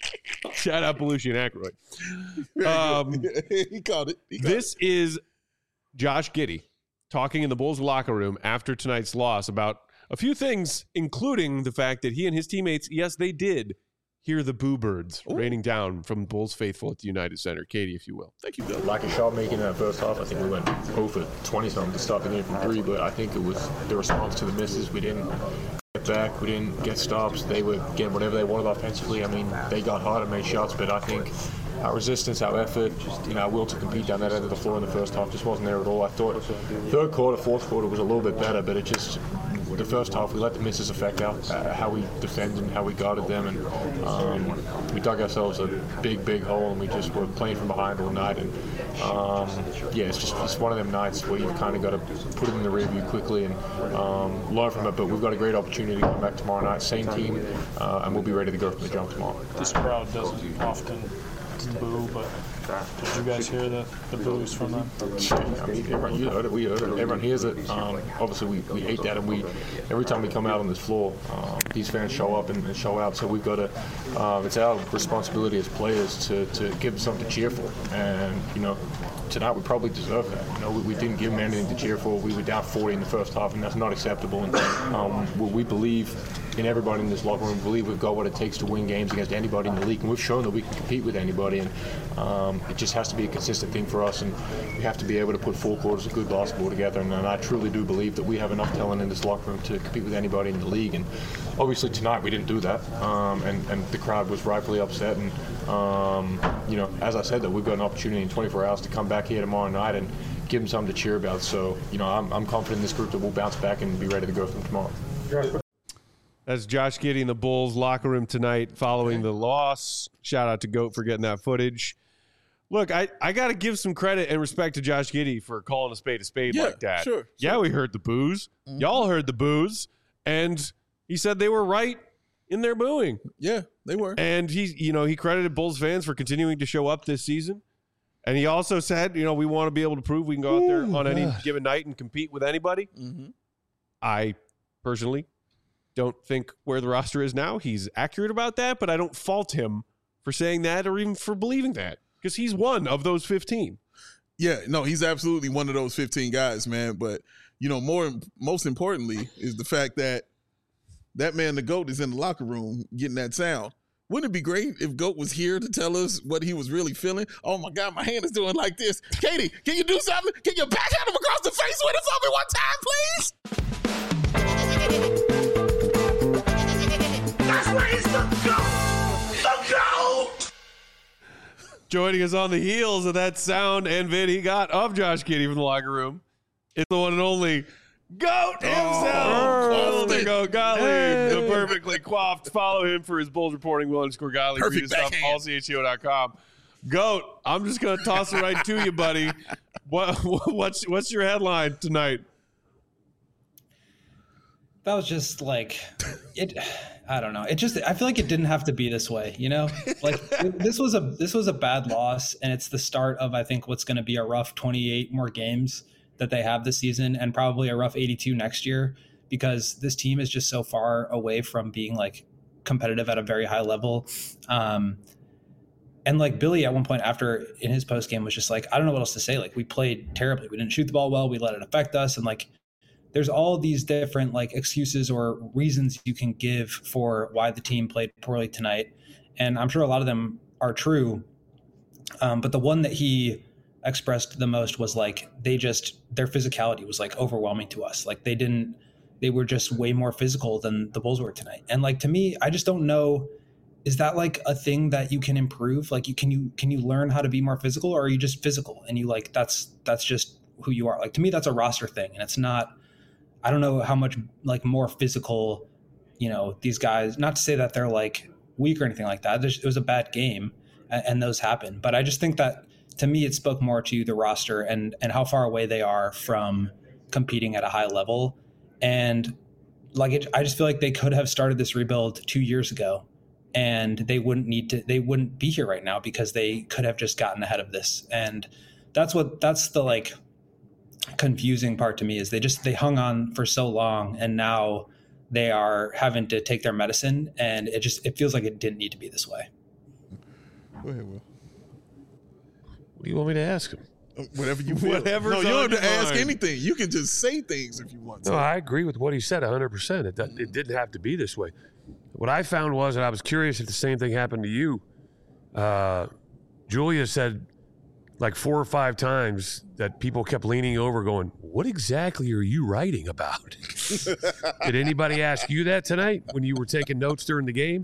Shout out Belushi and Aykroyd. Um, he called it. He called this it. is Josh Giddey talking in the Bulls locker room after tonight's loss about a few things, including the fact that he and his teammates, yes, they did hear the boo birds Ooh. raining down from Bulls faithful at the United Center. Katie, if you will. Thank you, Bill. Lack of shot making in that first half. I think we went zero for twenty something to start the game from three, but I think it was the response to the misses. We didn't get back, we didn't get stops. They were getting whatever they wanted offensively. I mean, they got hard and made shots, but I think our resistance, our effort, you know, our will to compete down that end of the floor in the first half just wasn't there at all. I thought third quarter, fourth quarter was a little bit better, but it just, the first half, we let the misses affect our, uh, how we defended and how we guarded them, and um, we dug ourselves a big, big hole, and we just were playing from behind all night. And um, yeah, it's just it's one of them nights where you've kind of got to put it in the rear view quickly and um, learn from it. But we've got a great opportunity to come back tomorrow night, same team, uh, and we'll be ready to go from the jump tomorrow. This crowd doesn't often boo, but did you guys hear the, the boos from them? I mean, everyone, you heard it, we heard it, everyone hears it. Um, obviously, we, we hate that, and we every time we come out on this floor, um, these fans show up and, and show out. So we've got to, um, it's our responsibility as players to, to give them something to cheer for. And you know, tonight we probably deserve that. You know, we, we didn't give them anything to cheer for. We were down forty in the first half, and that's not acceptable. And um, we, we believe in everybody in this locker room. We believe we've got what it takes to win games against anybody in the league, and we've shown that we can compete with anybody. And um, it just has to be a consistent thing for us, and we have to be able to put four quarters of good basketball together. And, and I truly do believe that we have enough talent in this locker room to compete with anybody in the league. And obviously tonight we didn't do that, um, and, and the crowd was rightfully upset. And um, you know, as I said, that we've got an opportunity in twenty-four hours to come back here tomorrow night and give them something to cheer about. So you know, I'm, I'm confident in this group that we'll bounce back and be ready to go from tomorrow. That's Josh Giddey in the Bulls locker room tonight following the loss. Shout out to GOAT for getting that footage. Look, I, I got to give some credit and respect to Josh Giddey for calling a spade a spade Yeah, like that. sure, Yeah, sure. we heard the boos. Mhm. Y'all heard the boos. And he said they were right in their booing. Yeah, they were. And he, you know, he credited Bulls fans for continuing to show up this season. And he also said, you know, we want to be able to prove we can go out there Ooh, on any gosh. given night and compete with anybody. Mm-hmm. I personally don't think where the roster is now, he's accurate about that, but I don't fault him for saying that or even for believing that because he's one of those fifteen. Yeah, no, he's absolutely one of those fifteen guys, man. But, you know, more most importantly is the fact that that man, the GOAT, is in the locker room getting that sound. Wouldn't it be great if GOAT was here to tell us what he was really feeling? Oh, my God, my hand is doing like this. Katie, can you do something? Can you backhand him across the face with us on me one time, please? That's where he's the GOAT! The GOAT! Joining us on the heels of that sound and vid he got of Josh Giddey from the locker room, it's the one and only GOAT himself. Oh, the it. GOAT Gottlieb, Hey. the perfectly coiffed. Follow him for his Bulls reporting. Will underscore Gottlieb. Perfect Read his stuff, backhand. all C H O dot com. GOAT, I'm just going to toss it right to you, buddy. What, what's, what's your headline tonight? That was just like it. I don't know. It just. I feel like it didn't have to be this way. You know, like it- this was a this was a bad loss, and it's the start of I think what's going to be a rough twenty-eight more games that they have this season, and probably a rough eighty-two next year because this team is just so far away from being like competitive at a very high level. Um, and like Billy at one point after in his post game was just like, I don't know what else to say. Like we played terribly. We didn't shoot the ball well. We let it affect us, and like. There's all these different like excuses or reasons you can give for why the team played poorly tonight. And I'm sure a lot of them are true. Um, but the one that he expressed the most was like, they just, their physicality was like overwhelming to us. Like they didn't, they were just way more physical than the Bulls were tonight. And like, to me, I just don't know, is that like a thing that you can improve? Like you, can you, can you learn how to be more physical, or are you just physical and you like, that's, that's just who you are. Like, to me, that's a roster thing. And it's not, I don't know how much like more physical, you know, these guys, not to say that they're like weak or anything like that. It was a bad game and, and those happen. But I just think that to me, it spoke more to the roster and, and how far away they are from competing at a high level. And like, it, I just feel like they could have started this rebuild two years ago and they wouldn't need to, they wouldn't be here right now because they could have just gotten ahead of this. And that's what, that's the like, confusing part to me is they just they hung on for so long and now they are having to take their medicine and it just it feels like it didn't need to be this way. Go ahead, Will. What do you want me to ask him? Whatever you feel. Whatever's No, you on don't have to your ask mind. anything. You can just say things if you want to. No, I agree with what he said one hundred percent. It, doesn't- it didn't have to be this way. What I found was, and I was curious if the same thing happened to you, uh, Julia said like four or five times that people kept leaning over going, what exactly are you writing about? Did anybody ask you that tonight when you were taking notes during the game?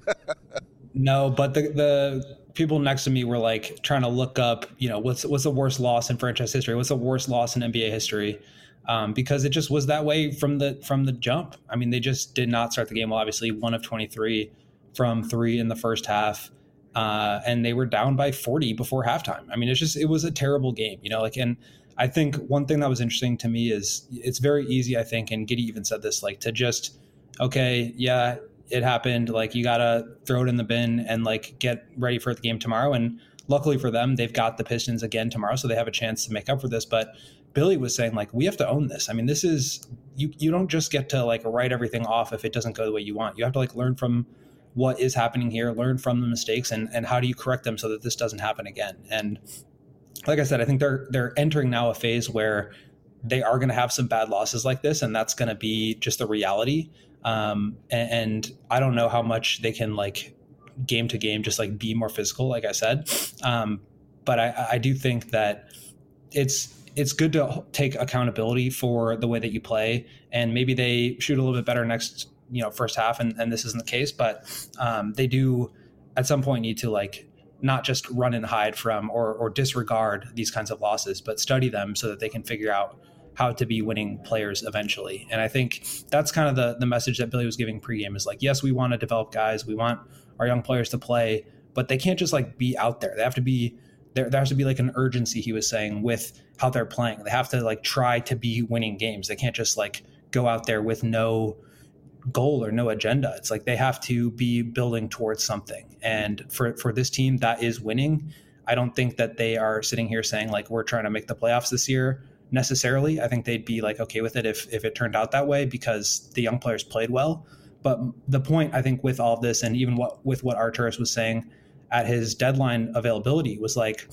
No, but the the people next to me were like trying to look up, you know, what's what's the worst loss in franchise history? What's the worst loss in N B A history? Um, because it just was that way from the from the jump. I mean, they just did not start the game well. Obviously, one of twenty-three from three in the first half, uh, and they were down by forty before halftime. I mean, it's just it was a terrible game, you know. Like, and I think one thing that was interesting to me is it's very easy, I think, and Giddey even said this, like to just okay, yeah. It happened. Like you gotta throw it in the bin and like get ready for the game tomorrow. And luckily for them, they've got the Pistons again tomorrow, so they have a chance to make up for this. But Billy was saying like we have to own this. I mean, this is you. You don't just get to like write everything off if it doesn't go the way you want. You have to like learn from what is happening here, learn from the mistakes, and and how do you correct them so that this doesn't happen again. And like I said, I think they're they're entering now a phase where they are going to have some bad losses like this, and that's going to be just the reality. Um, and, and I don't know how much they can like game to game, just like be more physical, like I said. Um, but I, I do think that it's, it's good to take accountability for the way that you play, and maybe they shoot a little bit better next, you know, first half. And, and this isn't the case, but, um, they do at some point need to like not just run and hide from, or, or disregard these kinds of losses, but study them so that they can figure out how to be winning players eventually. And I think that's kind of the the message that Billy was giving pregame is like, yes, we want to develop guys. We want our young players to play, but they can't just like be out there. They have to be, there, there has to be like an urgency, he was saying, with how they're playing. They have to like try to be winning games. They can't just like go out there with no goal or no agenda. It's like they have to be building towards something. And for, for this team that is winning, I don't think that they are sitting here saying like, we're trying to make the playoffs this year. Necessarily, I think they'd be like okay with it if if it turned out that way because the young players played well. But the point I think with all of this, and even what with what Arturas was saying at his deadline availability, was like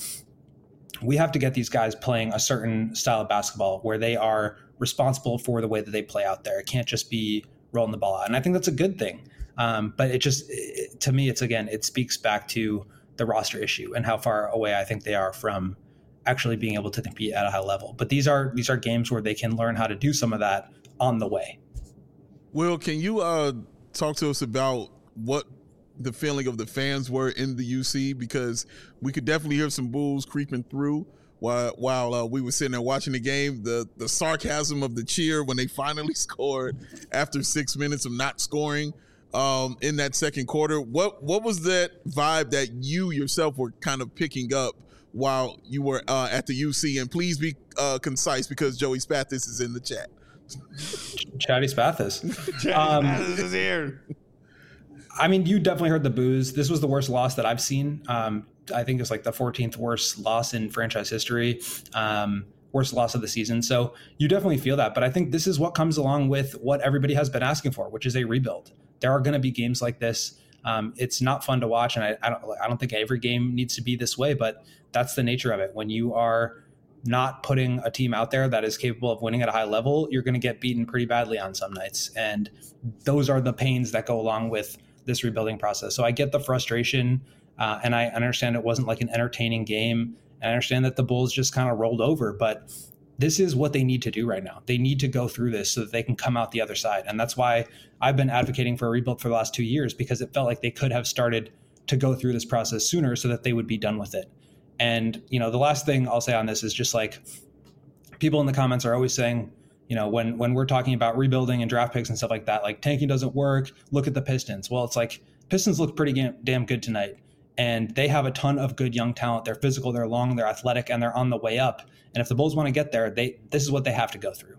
we have to get these guys playing a certain style of basketball where they are responsible for the way that they play out there. It can't just be rolling the ball out, and I think that's a good thing. Um, but it just it, to me, it's again, it speaks back to the roster issue and how far away I think they are from actually being able to compete at a high level. But these are these are games where they can learn how to do some of that on the way. Will, can you uh, talk to us about what the feeling of the fans were in the U C? Because we could definitely hear some boos creeping through while while uh, we were sitting there watching the game. The the sarcasm of the cheer when they finally scored after six minutes of not scoring um, in that second quarter. What what was that vibe that you yourself were kind of picking up while you were uh, at the U C? And please be uh, concise because Joey Spathis is in the chat. Chatty Spathis. Chatty Um, Spathis is here. I mean, you definitely heard the boos. This was the worst loss that I've seen. Um, I think it's like the fourteenth worst loss in franchise history, um, worst loss of the season. So you definitely feel that. But I think this is what comes along with what everybody has been asking for, which is a rebuild. There are going to be games like this. Um, it's not fun to watch, and I, I don't. I don't think every game needs to be this way, but that's the nature of it. When you are not putting a team out there that is capable of winning at a high level, you're going to get beaten pretty badly on some nights, and those are the pains that go along with this rebuilding process. So I get the frustration, uh, and I understand it wasn't like an entertaining game, and I understand that the Bulls just kind of rolled over, but this is what they need to do right now. They need to go through this so that they can come out the other side. And that's why I've been advocating for a rebuild for the last two years, because it felt like they could have started to go through this process sooner so that they would be done with it. And, you know, the last thing I'll say on this is just like people in the comments are always saying, you know, when, when we're talking about rebuilding and draft picks and stuff like that, like tanking doesn't work. Look at the Pistons. Well, it's like Pistons look pretty ga- damn good tonight. And they have a ton of good young talent. They're physical, they're long, they're athletic, and they're on the way up. And if the Bulls want to get there, they this is what they have to go through.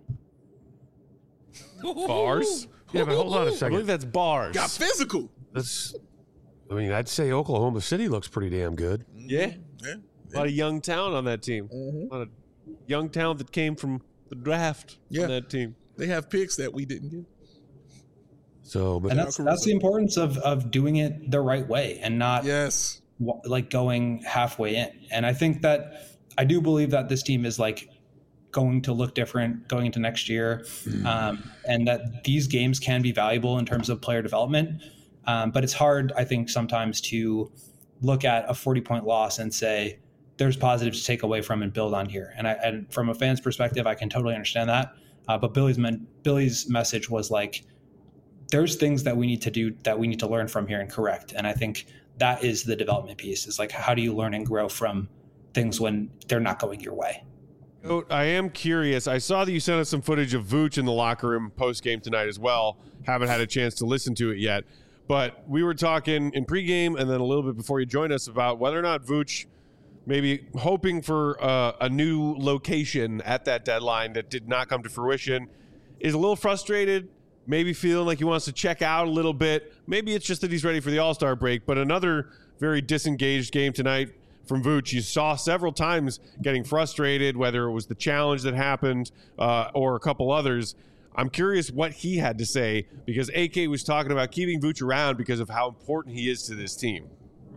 Bars? Yeah, but hold on a I second. believe that's bars. Got physical. That's, I mean, I'd say Oklahoma City looks pretty damn good. Yeah. Yeah. A lot of young talent on that team. Mhm. A lot of young talent that came from the draft Yeah. on that team. They have picks that we didn't get. So, but And that's that's the importance of of doing it the right way and not Yes. like going halfway in. And I think that I do believe that this team is like going to look different going into next year, um, and that these games can be valuable in terms of player development. Um, but it's hard, I think, sometimes to look at a forty point loss and say there's positives to take away from and build on here. And, I, and from a fan's perspective, I can totally understand that. Uh, but Billy's men, Billy's message was like, there's things that we need to do that we need to learn from here and correct. And I think that is the development piece. Is like, how do you learn and grow from things when they're not going your way? I am curious. I saw that you sent us some footage of Vooch in the locker room post-game tonight as well. Haven't had a chance to listen to it yet. But we were talking in pregame and then a little bit before you joined us about whether or not Vooch maybe hoping for uh, a new location at that deadline that did not come to fruition, is a little frustrated, maybe feeling like he wants to check out a little bit. Maybe it's just that he's ready for the All-Star break. But another very disengaged game tonight from Vooch. You saw several times getting frustrated, whether it was the challenge that happened uh, or a couple others. I'm curious what he had to say, because A K was talking about keeping Vooch around because of how important he is to this team.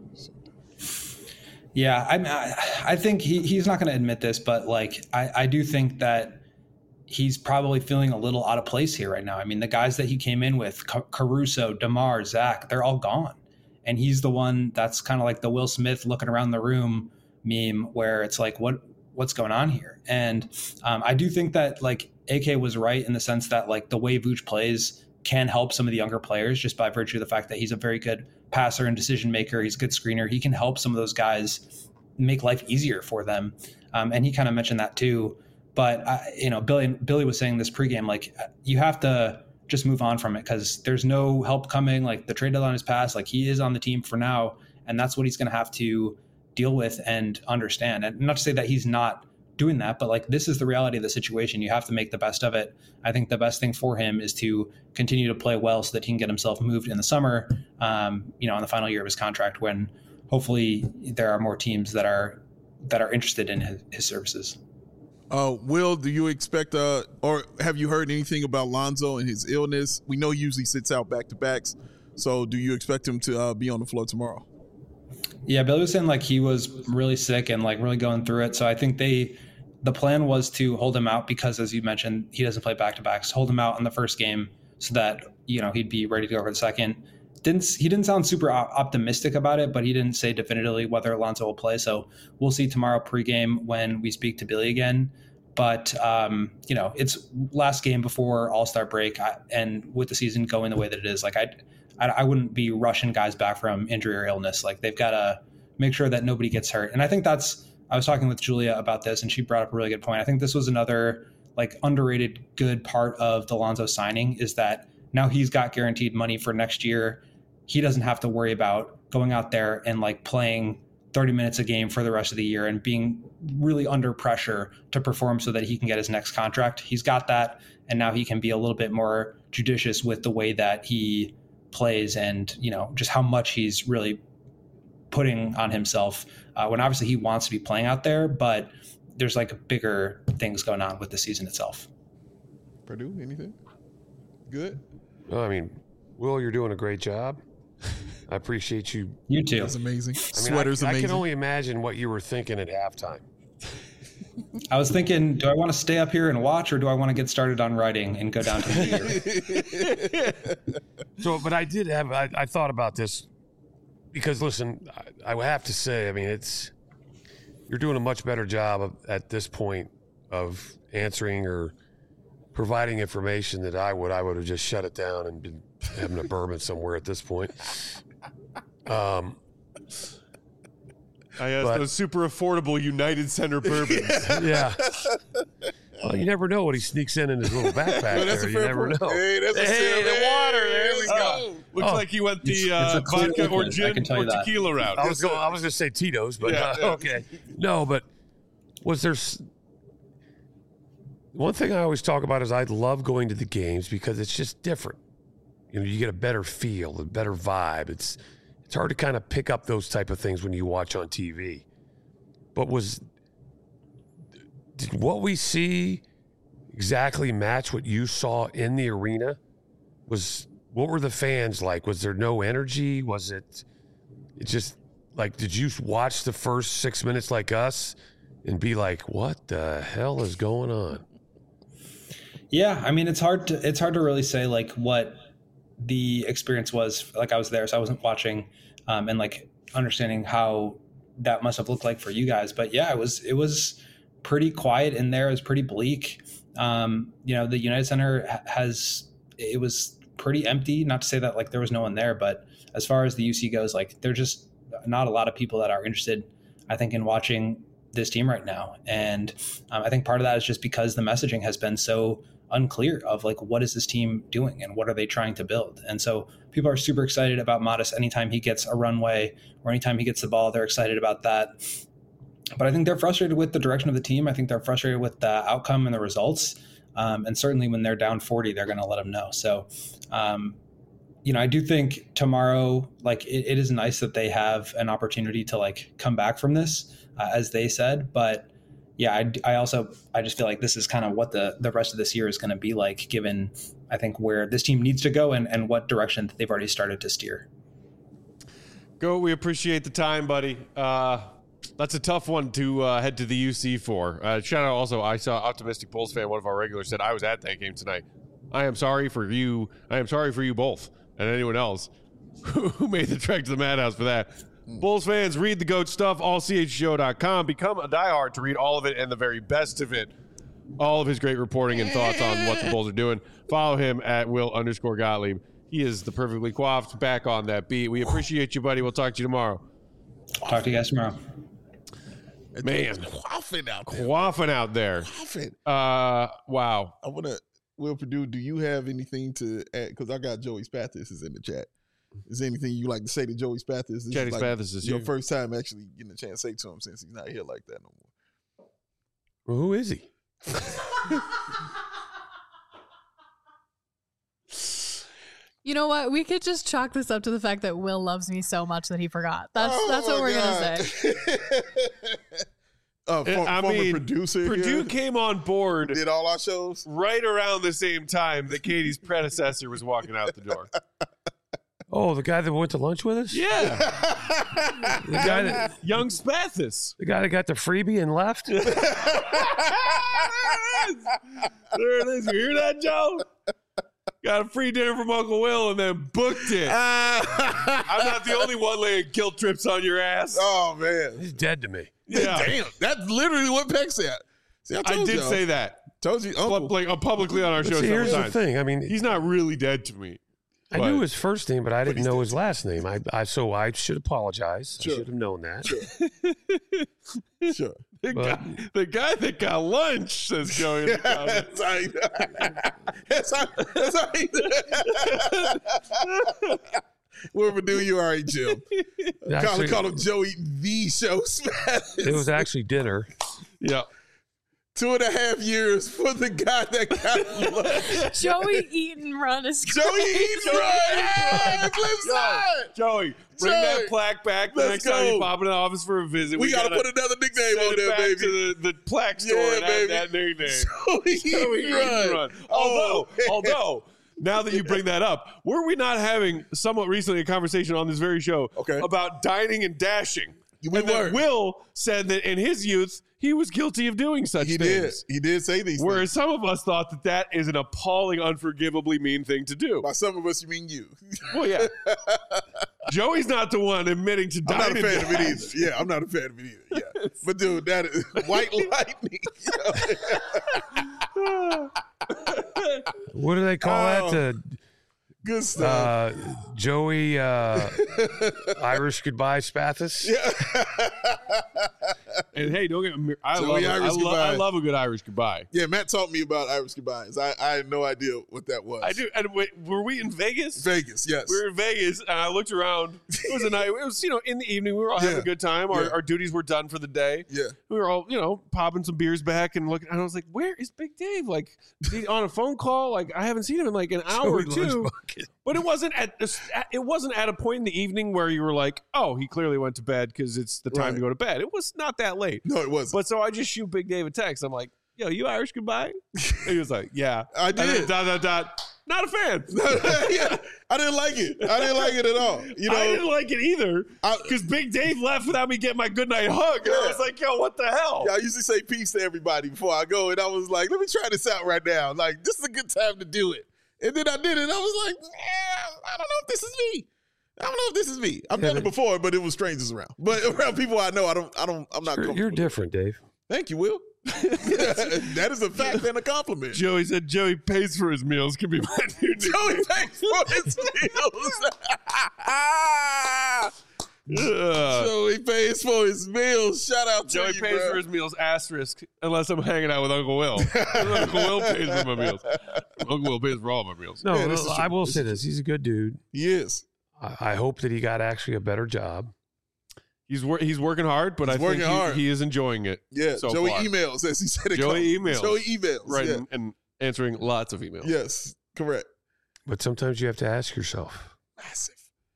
Yeah, I I think he, he's not going to admit this, but like I, I do think that he's probably feeling a little out of place here right now. I mean, the guys that he came in with, Caruso, DeMar, Zach, they're all gone. And he's the one that's kind of like the Will Smith looking around the room meme, where it's like, what what's going on here? And um, I do think that like A K was right in the sense that like the way Vooch plays can help some of the younger players just by virtue of the fact that he's a very good passer and decision maker. He's a good screener. He can help some of those guys make life easier for them. Um, and he kind of mentioned that too. But, I, you know, Billy, Billy was saying this pregame, like you have to just move on from it because there's no help coming. Like the trade deadline is passed. Like he is on the team for now. And that's what he's going to have to deal with and understand. And not to say that he's not doing that, but like this is the reality of the situation. You have to make the best of it. I think the best thing for him is to continue to play well so that he can get himself moved in the summer, um, you know, in the final year of his contract, when hopefully there are more teams that are that are interested in his, his services. Uh, Will, do you expect, uh, or have you heard anything about Lonzo and his illness? We know he usually sits out back-to-backs, so do you expect him to uh, be on the floor tomorrow? Yeah, Billy was saying like he was really sick and like really going through it. So I think they, the plan was to hold him out because, as you mentioned, he doesn't play back-to-backs, hold him out in the first game so that, you know, he'd be ready to go for the second. Didn't he didn't sound super optimistic about it, but he didn't say definitively whether Alonso will play. So we'll see tomorrow pregame when we speak to Billy again. But, um, you know, it's last game before All-Star break. I, and with the season going the way that it is, like I, I, I wouldn't be rushing guys back from injury or illness. Like they've got to make sure that nobody gets hurt. And I think that's, I was talking with Julia about this and she brought up a really good point. I think this was another like underrated good part of the Lonzo signing is that now he's got guaranteed money for next year. He doesn't have to worry about going out there and like playing thirty minutes a game for the rest of the year and being really under pressure to perform so that he can get his next contract. He's got that. And now he can be a little bit more judicious with the way that he plays and, you know, just how much he's really putting on himself uh, when obviously he wants to be playing out there, but there's like bigger things going on with the season itself. Purdue, anything? Good? Well, I mean, Will, you're doing a great job. I appreciate you. You too. That's amazing. I mean, Sweater's I, amazing. I can only imagine what you were thinking at halftime. I was thinking, do I want to stay up here and watch, or do I want to get started on writing and go down to the theater? So, but I did have, I, I thought about this because, listen, I, I have to say, I mean, it's, you're doing a much better job of, at this point of answering or providing information that I would. I would have just shut it down and been having a bourbon somewhere at this point. Um, I asked but, those super affordable United Center bourbons. Yeah. Well, you never know what he sneaks in in his little backpack. Oh, that's there. a You fair never point. know. Hey, that's a Hey, the water. There we Oh. go. Looks Oh. like he went the It's- uh, it's a clear vodka or liquid, I gin can tell or you that. tequila route. I was going. I was going to say Tito's, but Yeah, uh, yeah. okay. No, but was there s- one thing I always talk about is I love going to the games because it's just different. You know, you get a better feel, a better vibe. It's it's hard to kind of pick up those type of things when you watch on T V. But was did what we see exactly match what you saw in the arena? Was what were the fans like? Was there no energy? Was it it just like, did you watch the first six minutes like us and be like, what the hell is going on? Yeah, I mean, it's hard to it's hard to really say like what the experience was. Like I was there, so I wasn't watching, um, and like understanding how that must have looked like for you guys. But yeah, it was it was pretty quiet in there. It was pretty bleak. Um, you know, the United Center has it was pretty empty. Not to say that like there was no one there, but as far as the U C goes, like there's just not a lot of people that are interested, I think, in watching this team right now. And um, I think part of that is just because the messaging has been so unclear of like, what is this team doing and what are they trying to build? And so people are super excited about Modest anytime he gets a runway or anytime he gets the ball, they're excited about that. But I think they're frustrated with the direction of the team. I think they're frustrated with the outcome and the results. Um, and certainly when they're down forty, they're going to let them know. So, um, you know, I do think tomorrow, like it, it is nice that they have an opportunity to like come back from this, uh, as they said. But yeah, I, I also, I just feel like this is kind of what the, the rest of this year is going to be like, given I think where this team needs to go and, and what direction they've already started to steer. Go. We appreciate the time, buddy. Uh, that's a tough one to uh, head to the U C for. Uh, shout out also, I saw Optimistic Bulls fan, one of our regulars, said, I was at that game tonight. I am sorry for you. I am sorry for you both and anyone else who made the trek to the Madhouse for that. Mm. Bulls fans, read the GOAT stuff, all c h g o dot com. Become a diehard to read all of it and the very best of it. All of his great reporting and thoughts on what the Bulls are doing. Follow him at Will underscore Gottlieb. He is the perfectly coiffed back on that beat. We appreciate you, buddy. We'll talk to you tomorrow. Talk to you guys tomorrow. Man, quaffing out there. Quaffing out there. Quaffing. Uh, wow. I want to, Will Purdue, do you have anything to add? Because I got Joey Spathis is in the chat. Is there anything you like to say to Joey Spathis? This Joey is like Spathis is your here. first time actually getting a chance to say to him since he's not here like that no more. Well, who is he? You know what? We could just chalk this up to the fact that Will loves me so much that he forgot. That's Oh that's what my we're God. gonna say. uh, for, I former mean, producer. Purdue here, came on board did all our shows. right around the same time that Katie's predecessor was walking out the door. Oh, the guy that went to lunch with us? Yeah. The guy that, Young Spathis. the guy that got the freebie and left? There it is. There it is. You hear that, Joe? Got a free dinner from Uncle Will and then booked it. I'm not the only one laying guilt trips on your ass. Oh man, He's dead to me. Yeah. Damn, that's literally what Peck said. See, I, I told did y'all. say that. Told you, Pub- Uncle. like, uh, publicly on our But show see, several here's the times. thing. I mean, He's not really dead to me. I but- knew his first name, but I didn't he's know dead his last name. I, I so I should apologize. Sure. I should have known that. Sure. The, But- guy, the guy that got lunch, says Joey in the comments. That's how. That's how. Will Purdue, you all right, Jim? Call, Actually, call him Joey the Show Spathis. it was actually dinner. Yeah. Two and a half years for the guy that got lunch. Joey Eaton run is Joey Eaton, right? Flip side. Joey, bring Joey, that plaque back the let's next time go. you pop in the office for a visit. We, gotta, put another nickname send on it there, back baby. to the, the plaque store Yeah, and add baby. that nickname. Joey Joey Eaton Eaton run. run. Oh, Although, man. although, now that you bring that up, were we not having somewhat recently a conversation on this very show Okay. about dining and dashing? We and were. that Will said that in his youth, he was guilty of doing such He did. things. He did say these Whereas things. some of us thought that that is an appalling, unforgivably mean thing to do. By some of us, you mean you. Well, yeah. Joey's not the one admitting to I'm not dining a fan and of it dash. either. Yeah, I'm not a fan of it either. Yeah. But dude, that is white lightning. What do they call Oh. that? Good Uh, stuff. uh, Joey uh, Irish Goodbye Spathis? Yeah. And hey, don't get me. I Joey love. it. I, Irish lo- goodbye. I love a good Irish goodbye. Yeah, Matt taught me about Irish goodbyes. I, I had no idea what that was. I do. And wait, were we in Vegas? Vegas, yes. We were in Vegas, and I looked around. It was a night. It was, you know, in the evening. We were all having Yeah. a good time. Our, Yeah. our duties were done for the day. Yeah. We were all, you know, popping some beers back and looking. And I was like, "Where is Big Dave? Like, is he on a phone call? Like, I haven't seen him in like an hour or Joey two." Lunchbucket. But it wasn't at it wasn't at a point in the evening where you were like, "Oh, he clearly went to bed because it's the time Right. to go to bed." It was not that late. No, it wasn't. But so I just shoot Big Dave a text. I'm like, "Yo, you Irish goodbye?" And he was like, "Yeah." I And then did. dot dot dot. Not a fan. yeah, I didn't like it. I didn't like it at all. You know, I didn't like it either because Big Dave left without me getting my goodnight hug. And Yeah. I was like, yo, what the hell? Yeah, I usually say peace to everybody before I go, and I was like, let me try this out right now. Like, this is a good time to do it. And then I did it, and I was like, eh, I don't know if this is me. I don't know if this is me. I've done it before, but it was strangers around. But around people I know, I don't, I don't, I'm not You're, comfortable. you're different, Dave. Thank you, Will. That is a fact and a compliment. Joey said Joey pays for his meals. Can be my new Joey pays for his meals. Ugh. Joey pays for his meals. Shout out to Joey you, pays bro. for his meals, asterisk, unless I'm hanging out with Uncle Will. Uncle Will pays for my meals. Uncle Will pays for all my meals. No, Yeah, this is I true. will This say is this. He's a good dude. He is. I, I hope that he got actually a better job. He's wor- he's working hard, but He's I think working he, hard. he is enjoying it. Yeah, so Joey far. emails, as he said it. Joey comes. emails. Joey emails. Right, Yeah. and, and answering lots of emails. Yes, correct. But sometimes you have to ask yourself, Massive.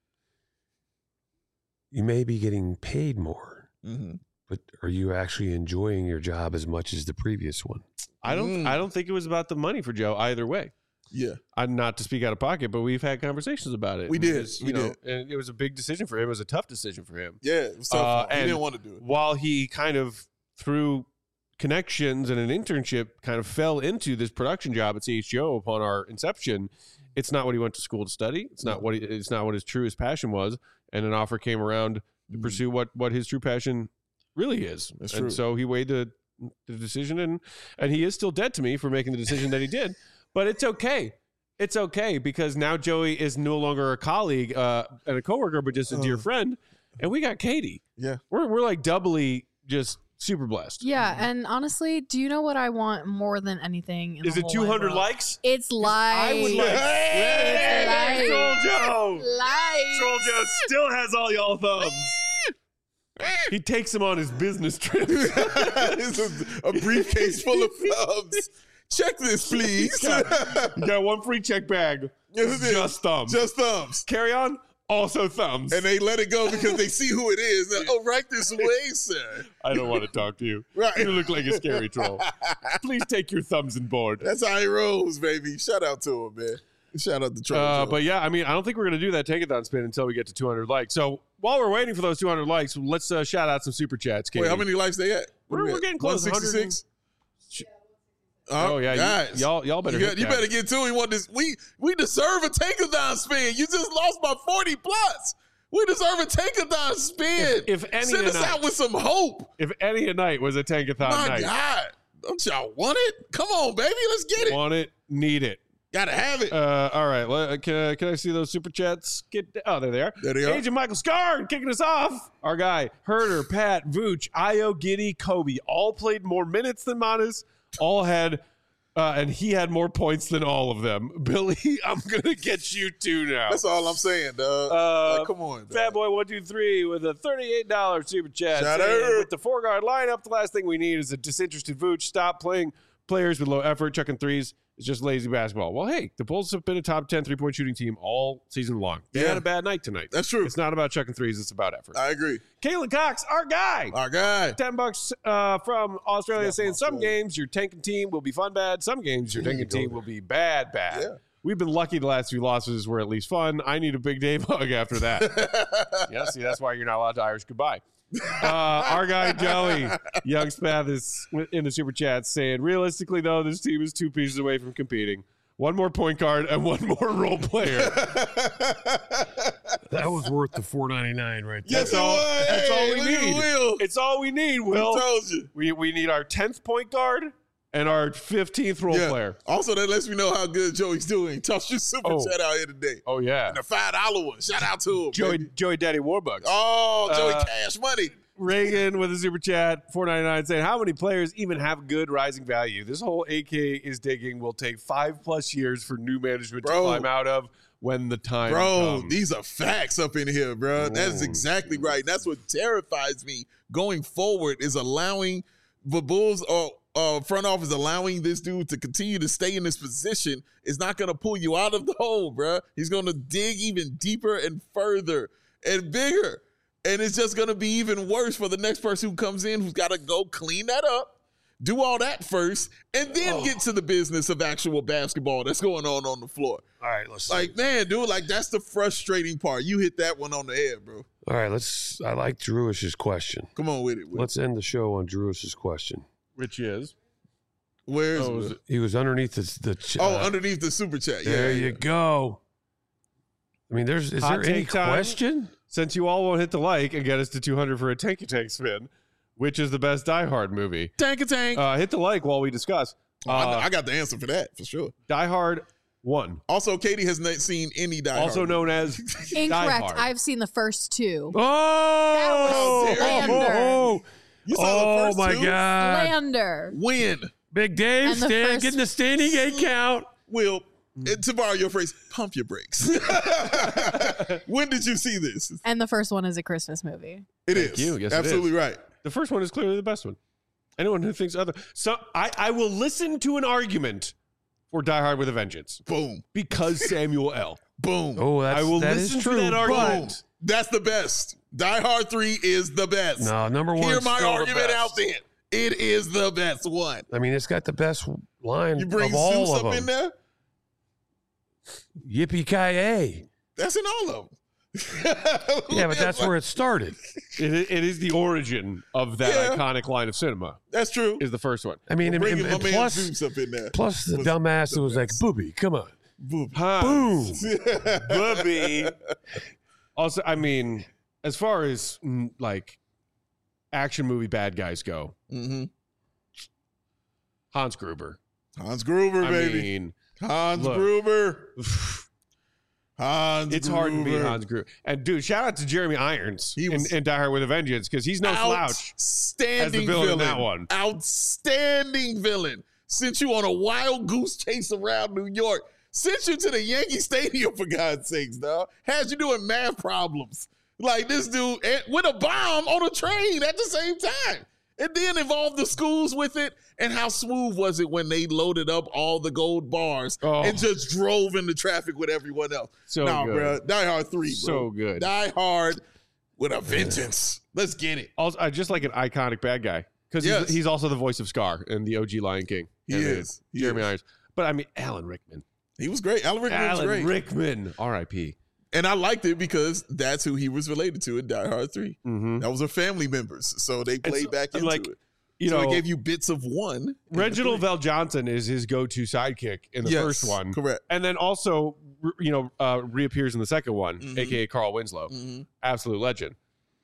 you may be getting paid more, Mm-hmm. but are you actually enjoying your job as much as the previous one? I don't Mm. I don't think it was about the money for Joe either way. Yeah. I'm not to speak out of pocket, but we've had conversations about it. We did. Because, you We know, did. and it was a big decision for him. It was a tough decision for him. Yeah, it was tough. Uh, for him. He and didn't want to do it. While he kind of through connections and an internship kind of fell into this production job at C H G O upon our inception, it's not what he went to school to study. It's not what he, it's not what his truest passion was. And an offer came around to Mhm. pursue what what his true passion really is. That's and true. so he weighed the the decision, and and he is still dead to me for making the decision that he did. But it's okay. It's okay because now Joey is no longer a colleague uh, and a coworker, but just a dear Uh. friend. And we got Katie. Yeah. We're we're like doubly just super blessed. Yeah, and honestly, do you know what I want more than anything? In Is the it whole two hundred wide world? likes? It's live. I would like. It's Hey, live. Troll Joe. Live. Troll Joe still has all y'all thumbs. He takes them on his business trips. It's a, a briefcase full of thumbs. Check this, please. You got one free check bag. Yes, it is. Just thumbs. Just thumbs. Carry on. Also thumbs. And they let it go because they see who it is. They're, oh, right this way, sir. I don't want to talk to you. Right. You look like a scary troll. Please take your thumbs and board. That's how he rolls, baby. Shout out to him, man. Shout out to Troll Uh, Joe. but yeah, I mean, I don't think we're going to do that tankathon spin until we get to two hundred likes. So while we're waiting for those two hundred likes, let's uh, shout out some super chats. Katie. Wait, how many likes they at? What We're- are we we're at? getting close, one sixty-six? Oh, yeah, you- guys. y'all- y'all better You, hit you that. better get to it. We want this. We we deserve a tankathon spin. You just lost by forty plus. We deserve a tankathon spin. If- if any send us tonight- out with some hope. If any a night was a tankathon My night, God, don't y'all want it? Come on, baby, let's get it. want it, need it. Gotta have it. Uh, all right, well, can, I, can I see those super chats? Get Oh, there they are. There they are. Agent Michael Scarn kicking us off. Our guy, Herder, Pat, Vooch, Io, Giddy, Kobe, all played more minutes than Manas. All had, uh, and he had more points than all of them. Billy, I'm going to get you two now. That's all I'm saying, dog. Uh, like, come on, dog. Fat Boy one two three with a thirty-eight dollars super chat. Shout saying, out. with the four guard lineup, the last thing we need is a disinterested Vooch. Stop playing players with low effort, chucking threes. It's just lazy basketball. Well, hey, the Bulls have been a top ten three-point shooting team all season long. They Yeah. had a bad night tonight. That's true. It's not about chucking threes. It's about effort. I agree. Kalen Cox, our guy. Our guy. ten bucks uh, from Australia Yeah, saying from some Australia. games your tanking team will be fun bad. Some games your There tanking you go team there. will be bad bad. Yeah. We've been lucky the last few losses were at least fun. I need a Big Dave hug after that. Yeah, see, that's why you're not allowed to Irish goodbye. Uh, our guy Joey Young Spath is in the super chat saying, realistically though, this team is two pieces away from competing. One more point guard and one more role player. That was worth the four ninety-nine right there. Yes, That's it all- was. that's all Hey, we look at need. Will. It's all we need, Will. Who told you? We we need our tenth point guard and our fifteenth role Yeah. player. Also, that lets me know how good Joey's doing. Toss your super Oh. chat out here today. Oh yeah, And the five dollar one. Shout out to him. Joey baby. Joey Daddy Warbucks. Oh, Joey Uh, Cash Money. Reagan with a super chat, four ninety-nine, saying, how many players even have good rising value? This whole A K is digging will take five plus years for new management Bro. to climb out of when the time Bro, comes. these are facts up in here, bro. That's Oh, exactly right. And that's what terrifies me going forward is allowing the Bulls or uh, front office allowing this dude to continue to stay in this position is not going to pull you out of the hole, bro. He's going to dig even deeper and further and bigger. And it's just going to be even worse for the next person who comes in who's got to go clean that up, Do all that first, and then oh. get to the business of actual basketball that's going on on the floor. All right, let's like, man, dude, like that's the frustrating part. You hit that one on the head, bro. All right, let's. I like Drewish's question. Come on with it. With let's it. end the show on Drewish's question, which is, where is oh, it? it? He was underneath the. the ch- oh, uh, underneath the super chat. Yeah, there yeah. you go. I mean, there's is Hot there any take time. question? Since you all won't hit the like and get us to two hundred for a tanky tank spin, which is the best Die Hard movie? Tank a tank. Uh, hit the like while we discuss. Oh, Uh, I, I got the answer for that for sure. Die Hard one. Also, Katie has not seen any Die Hard. Also known as Die Incorrect. Hard. I've seen the first two. Oh, That was slander. oh, You saw oh the first my two? God! Slander. When? Big Dave And the stand, first- getting the standing eight count. Will, and to borrow your phrase, pump your brakes. When did you see this? And the first one is a Christmas movie. It Thank is. you. Yes, it Absolutely is. right. The first one is clearly the best one. Anyone who thinks other, so I, I will listen to an argument for Die Hard with a Vengeance Boom. because Samuel L. Boom. Oh, that's, I will that listen is to true. that but- argument. That's the best. Die Hard three is the best. No, number one. Hear my still the argument best. out there. It is the best one. I mean, it's got the best line You bring of all Zeus of up them. in there? Yippee ki yay! That's in all of them. Yeah, but that's where it started. It, i- it is the origin of that Yeah. iconic line of cinema. That's true. Is the first one. I mean, and, Bringing and- my and man plus, Zeus up in there. plus the was dumbass the that was like, best. "Booby, come on, Boom. Huh. boom." Bubby. Also, I mean, as far as mm, like action movie bad guys go, Mm-hmm. Hans Gruber. Hans Gruber, I baby. mean, Hans look. Gruber. Hans it's Gruber. hard to beat Hans Gruber. And dude, shout out to Jeremy Irons He in, was- in Die Hard with a Vengeance because he's no slouch. Outstanding as the villain villain. in that one. Outstanding villain. Sent you on a wild goose chase around New York. Sent you to the Yankee Stadium, for God's sakes, dog. Had you doing math problems. Like this dude and with a bomb on a train at the same time. And then involved the schools with it. And how smooth was it when they loaded up all the gold bars Oh. and just drove into traffic with everyone else? So nah, good. bro. Die Hard three, bro. So good. Die Hard with a vengeance. Let's get it. Also, I just like an iconic bad guy because Yes. he's, he's also the voice of Scar in the O G Lion King. He And, uh, is. He Jeremy is. Irons. But I mean, Alan Rickman. He was great. Alan Rickman was Alan great. Rickman. R I P And I liked it because that's who he was related to in Die Hard three. Mm-hmm. That was their family members. So they played so- back and into like, it. You so know, it gave you bits of one. in the Reginald three. Val Johnson is his go-to sidekick in the Yes, first one. Correct. And then also, re- you know, uh, reappears in the second one, Mhm. aka Carl Winslow, Mhm. absolute legend.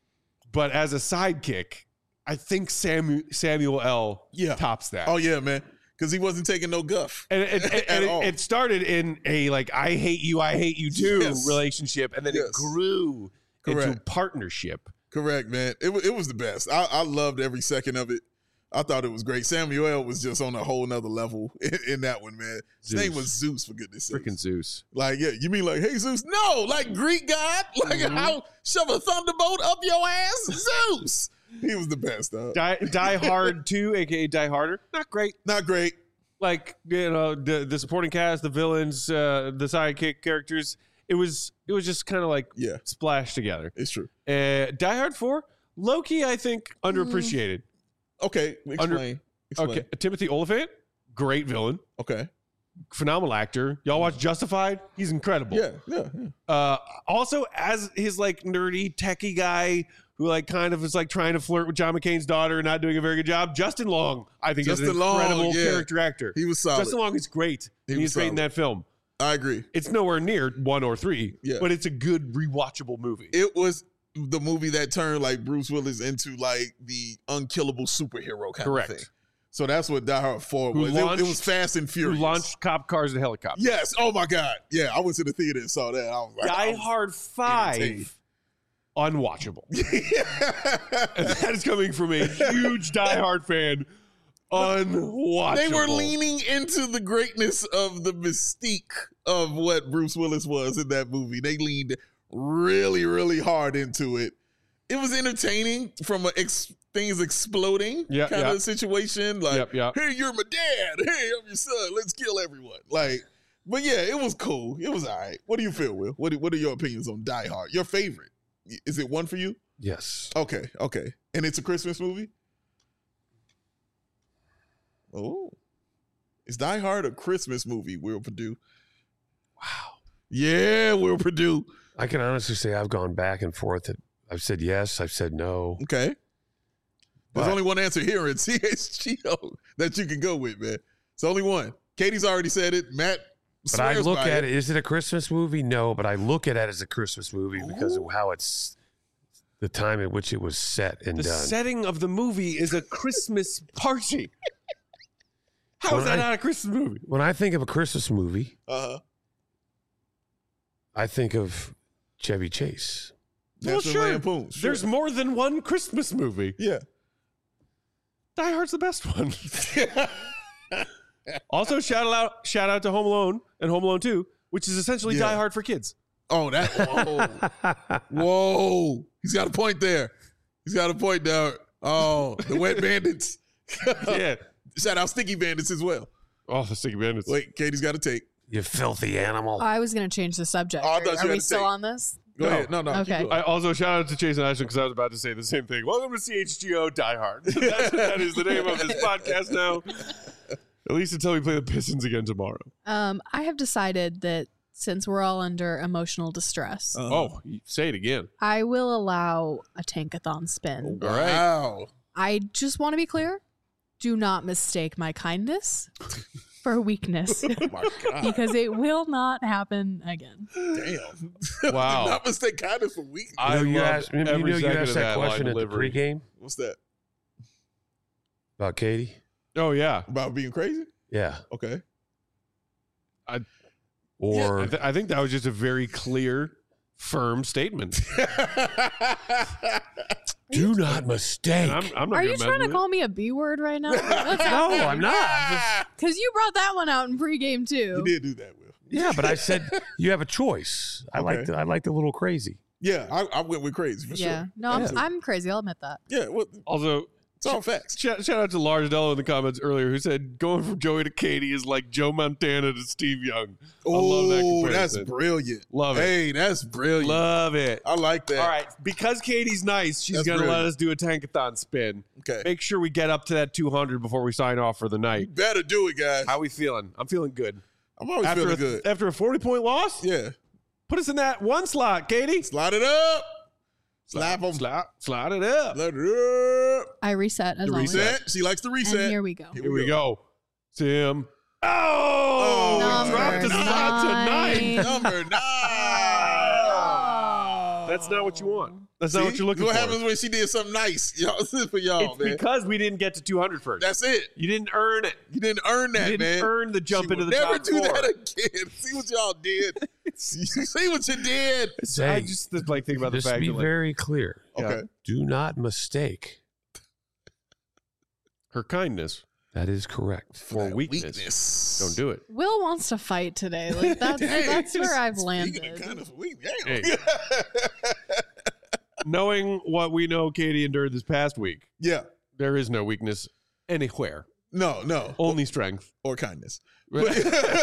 But as a sidekick, I think Samu- Samuel L. Yeah. tops that. Oh, yeah, man. Because he wasn't taking no guff. And, it, it- and At all. it, it started in a like I hate you, I hate you too Yes. relationship, and then Yes. it grew into Correct. partnership. Correct, man. It, wa- it was the best. I, I loved every second of it. I thought it was great. Samuel L. was just on a whole nother level in, in that one, man. His Zeus. name was Zeus, for goodness sake. Freaking Zeus. Like, yeah, you mean like, hey, Zeus? No, like Greek god. Like, Mhm. how shove a thunderbolt up your ass? Zeus. He was the best, dog. Die, Die Hard two, aka Die Harder, not great. Not great. Like you know the the supporting cast, the villains, uh, the sidekick characters. It was it was just kind of like Yeah, splashed together. it's true. Uh, Die Hard four, Loki, I think underappreciated. Okay, explain. Under- explain. Okay, Timothy Olyphant, great villain, Okay. phenomenal actor. Y'all watch Justified? He's incredible. Yeah, yeah, yeah. Uh, also, as his like nerdy techie guy who like kind of is like trying to flirt with John McCain's daughter and not doing a very good job. Justin Long, I think, is Justin an Long, incredible yeah. character actor. He was solid. Justin Long is great. He He's was great in solid. that film. I agree. It's nowhere near one or three, Yeah. but it's a good rewatchable movie. It was the movie that turned like Bruce Willis into like the unkillable superhero kind Correct. of thing. So that's what Die Hard four Who was. It- It, launched- was Fast and Who Furious. launched cop cars and helicopters. Yes. Oh my God. Yeah, I went to the theater and saw that. I was like, I Die was- Hard entertained. five, unwatchable. And that is coming from a huge Die Hard fan. Unwatchable. They were leaning into the greatness of the mystique of what Bruce Willis was in that movie. They leaned really, really hard into it. It was entertaining from a ex- things exploding Yeah, kind yeah. of situation. Like, Yep, yep. hey, you're my dad. Hey, I'm your son. Let's kill everyone. Like, but yeah, it was cool. It was all right. What do you feel, Will? What, what are your opinions on Die Hard? Your favorite? Is it one for you? Yes. Okay, okay. And it's a Christmas movie? Oh. Is Die Hard a Christmas movie, Will Purdue? Wow. Yeah, Will Purdue. I can honestly say I've gone back and forth. I've said yes. I've said no. Okay. There's But- only one answer here in C H G O that you can go with, man. It's only one. Katie's already said it. Matt But I swears look by at it. Is it a Christmas movie? No, but I look at it as a Christmas movie because of how it's the time at which it was set and The done. setting of the movie is a Christmas party. How When is that I- not a Christmas movie? When I think of a Christmas movie, Uh-huh. I think of Chevy Chase. Well, National sure. Lampoon. Sure. There's more than one Christmas movie. Yeah. Die Hard's the best one. Also, shout out shout out to Home Alone and Home Alone two, which is essentially Yeah. Die Hard for kids. Oh, that. Whoa. Whoa. He's got a point there. He's got a point there. Oh, the Wet Bandits. Yeah. Shout out Sticky Bandits as well. Oh, the Sticky Bandits. Wait, Katie's got to take. You filthy animal. I was going to change the subject. Oh, I Are, thought you are had we to still take- on this? Go No. ahead. No, no. keep Okay. going. I also shout out to Chase and Ashton because I was about to say the same thing. Welcome to C H G O Die Hard. That's, that is the name of this podcast now. At least until we play the Pistons again tomorrow. Um, I have decided that since we're all under emotional distress, Uh-huh. Oh, you- say it again. I will allow a tankathon spin. All right. Wow. I just want to be clear. Do not mistake my kindness for weakness Oh, my God. because it will not happen again. Damn. Wow. Not mistake kindness for weakness. I you know, you loved asked, you every know, you second asked of that, that line question at the delivery. pregame What's that? about Katie. Oh, yeah. About being crazy? Yeah. Okay. Or I, th- I think that was just a very clear, firm statement. do not mistake. And I'm, I'm not Are gonna you mess trying to with call me a B word right now? no, I'm not. Because you brought that one out in pregame too. You did do that, Will. Yeah, but I said you have a choice. I like Okay. the I like the little crazy. Yeah, I, I went with crazy for Yeah. sure. No, I'm, Yeah. I'm crazy. I'll admit that. Yeah, well, Also, it's all facts. shout, shout out to Lars Dello in the comments earlier who said going from Joey to Katie is like Joe Montana to Steve Young. I love that Oh, that's comparison. brilliant. Love it. Hey, that's brilliant. Love it. I like that. All right, because Katie's nice, she's That's going to let brilliant. us do a tankathon spin. Okay. Make sure we get up to that two hundred before we sign off for the You night. better do it, guys. How we feeling? I'm feeling good. I'm always after feeling a, good. After a forty-point loss? Yeah. Put us in that one slot, Katie. Slide it up. Slap them. Slide, slide it up. Slide it up. I reset as The always. Reset. She likes to reset. And here we go. Here we go. Tim. Oh, Number we dropped a slot tonight. nine. Number nine. That's not what you want. That's not See? what you're looking what for. happens when she did something nice? Y'all, this is for y'all, It's man. because we didn't get to two hundred first. That's it. You didn't earn it. You didn't earn that, you didn't man. earn the jump She into will the never top do four. that again. See what y'all did. See what you did. So I just like think about the Just fact be that like, very clear. Okay. Do not mistake. her kindness That is correct. for that weakness. weakness. Don't do it. Will wants to fight today. Like that's Dang, that's where I've speaking landed. of kind of weak, damn. Hey. Knowing what we know Katie endured this past week, yeah. there is no weakness anywhere. No, no. Only strength. Or kindness. just,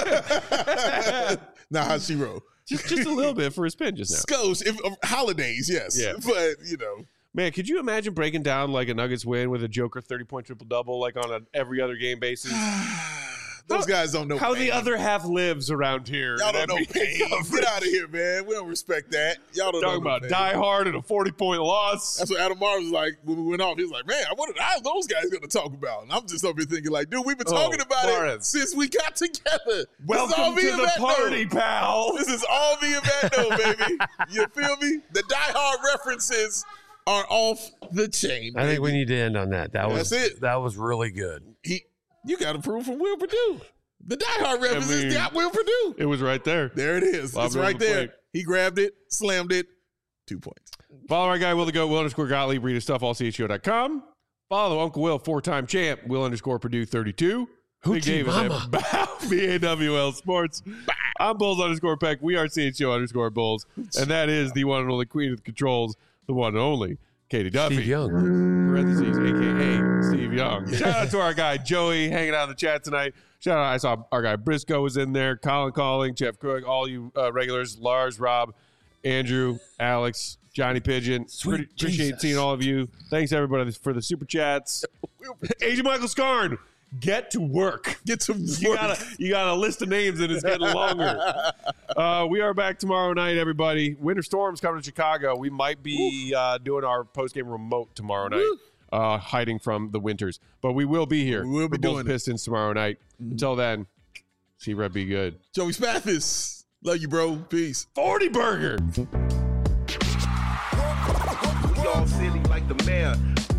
Now how she roll. just a little bit for a spin just now. Scotch, if uh, holidays, yes. Yeah. But you know. Man, could you imagine breaking down like a Nuggets win with a Joker thirty-point triple-double like on an every other game basis? Those guys don't know How pain. the other half lives around here. Y'all in don't know N B A pain. coverage. Get out of here, man. We don't respect that. Y'all don't Talking know about pain. Die Hard and a forty-point loss. That's what Adam Mars was like when we went off. He was like, man, what are how those guys going to talk about? And I'm just over here thinking like, dude, we've been Oh, talking about it Lawrence. since we got together. This is all Welcome me to and the Matt party, know. pal. This is all me and Matt know, baby. You feel me? The Die Hard references are off the chain. I think baby. we need to end on that. That was That's it. That was really good. He, you got approval from Will Purdue. The Die Hard references mean- got Will Purdue. It was right there. There it is. Lob It's it on right the there. plate. He grabbed it, slammed it. Two points. Follow our guy, Will the Goat, Will underscore Gottlieb, read his stuff, all C H O dot com. Follow Uncle Will, four-time champ, Will underscore Purdue thirty-two. Big Hoochie David mama. at B A W L Sports. I'm Bulls underscore Peck. We are C H O underscore Bulls. And that is the one and only queen of the controls, the one and only Katie Duffy. Steve Young. Parentheses, a k a. Steve Young. Shout out to our guy Joey hanging out in the chat tonight. Shout out, I saw our guy Briscoe was in there, Colin Calling, Jeff Cook, all you uh, regulars, Lars, Rob, Andrew, Alex, Johnny Pigeon. Sweet Pretty, appreciate Jesus. seeing all of you. Thanks everybody for the super chats. Agent Michael Scarn, get to work. Get to You work. got a you got a list of names and it's getting longer. Uh, we are back tomorrow night, everybody. Winter storms coming to Chicago. We might be uh, doing our post game remote tomorrow night, uh, hiding from the winters. But we will be here. We will be for Bulls doing it. Pistons tomorrow night. Mhm. Until then, see Red be good. Joey Spathis. Love you, bro. Peace. forty burger. We all silly like the mayor.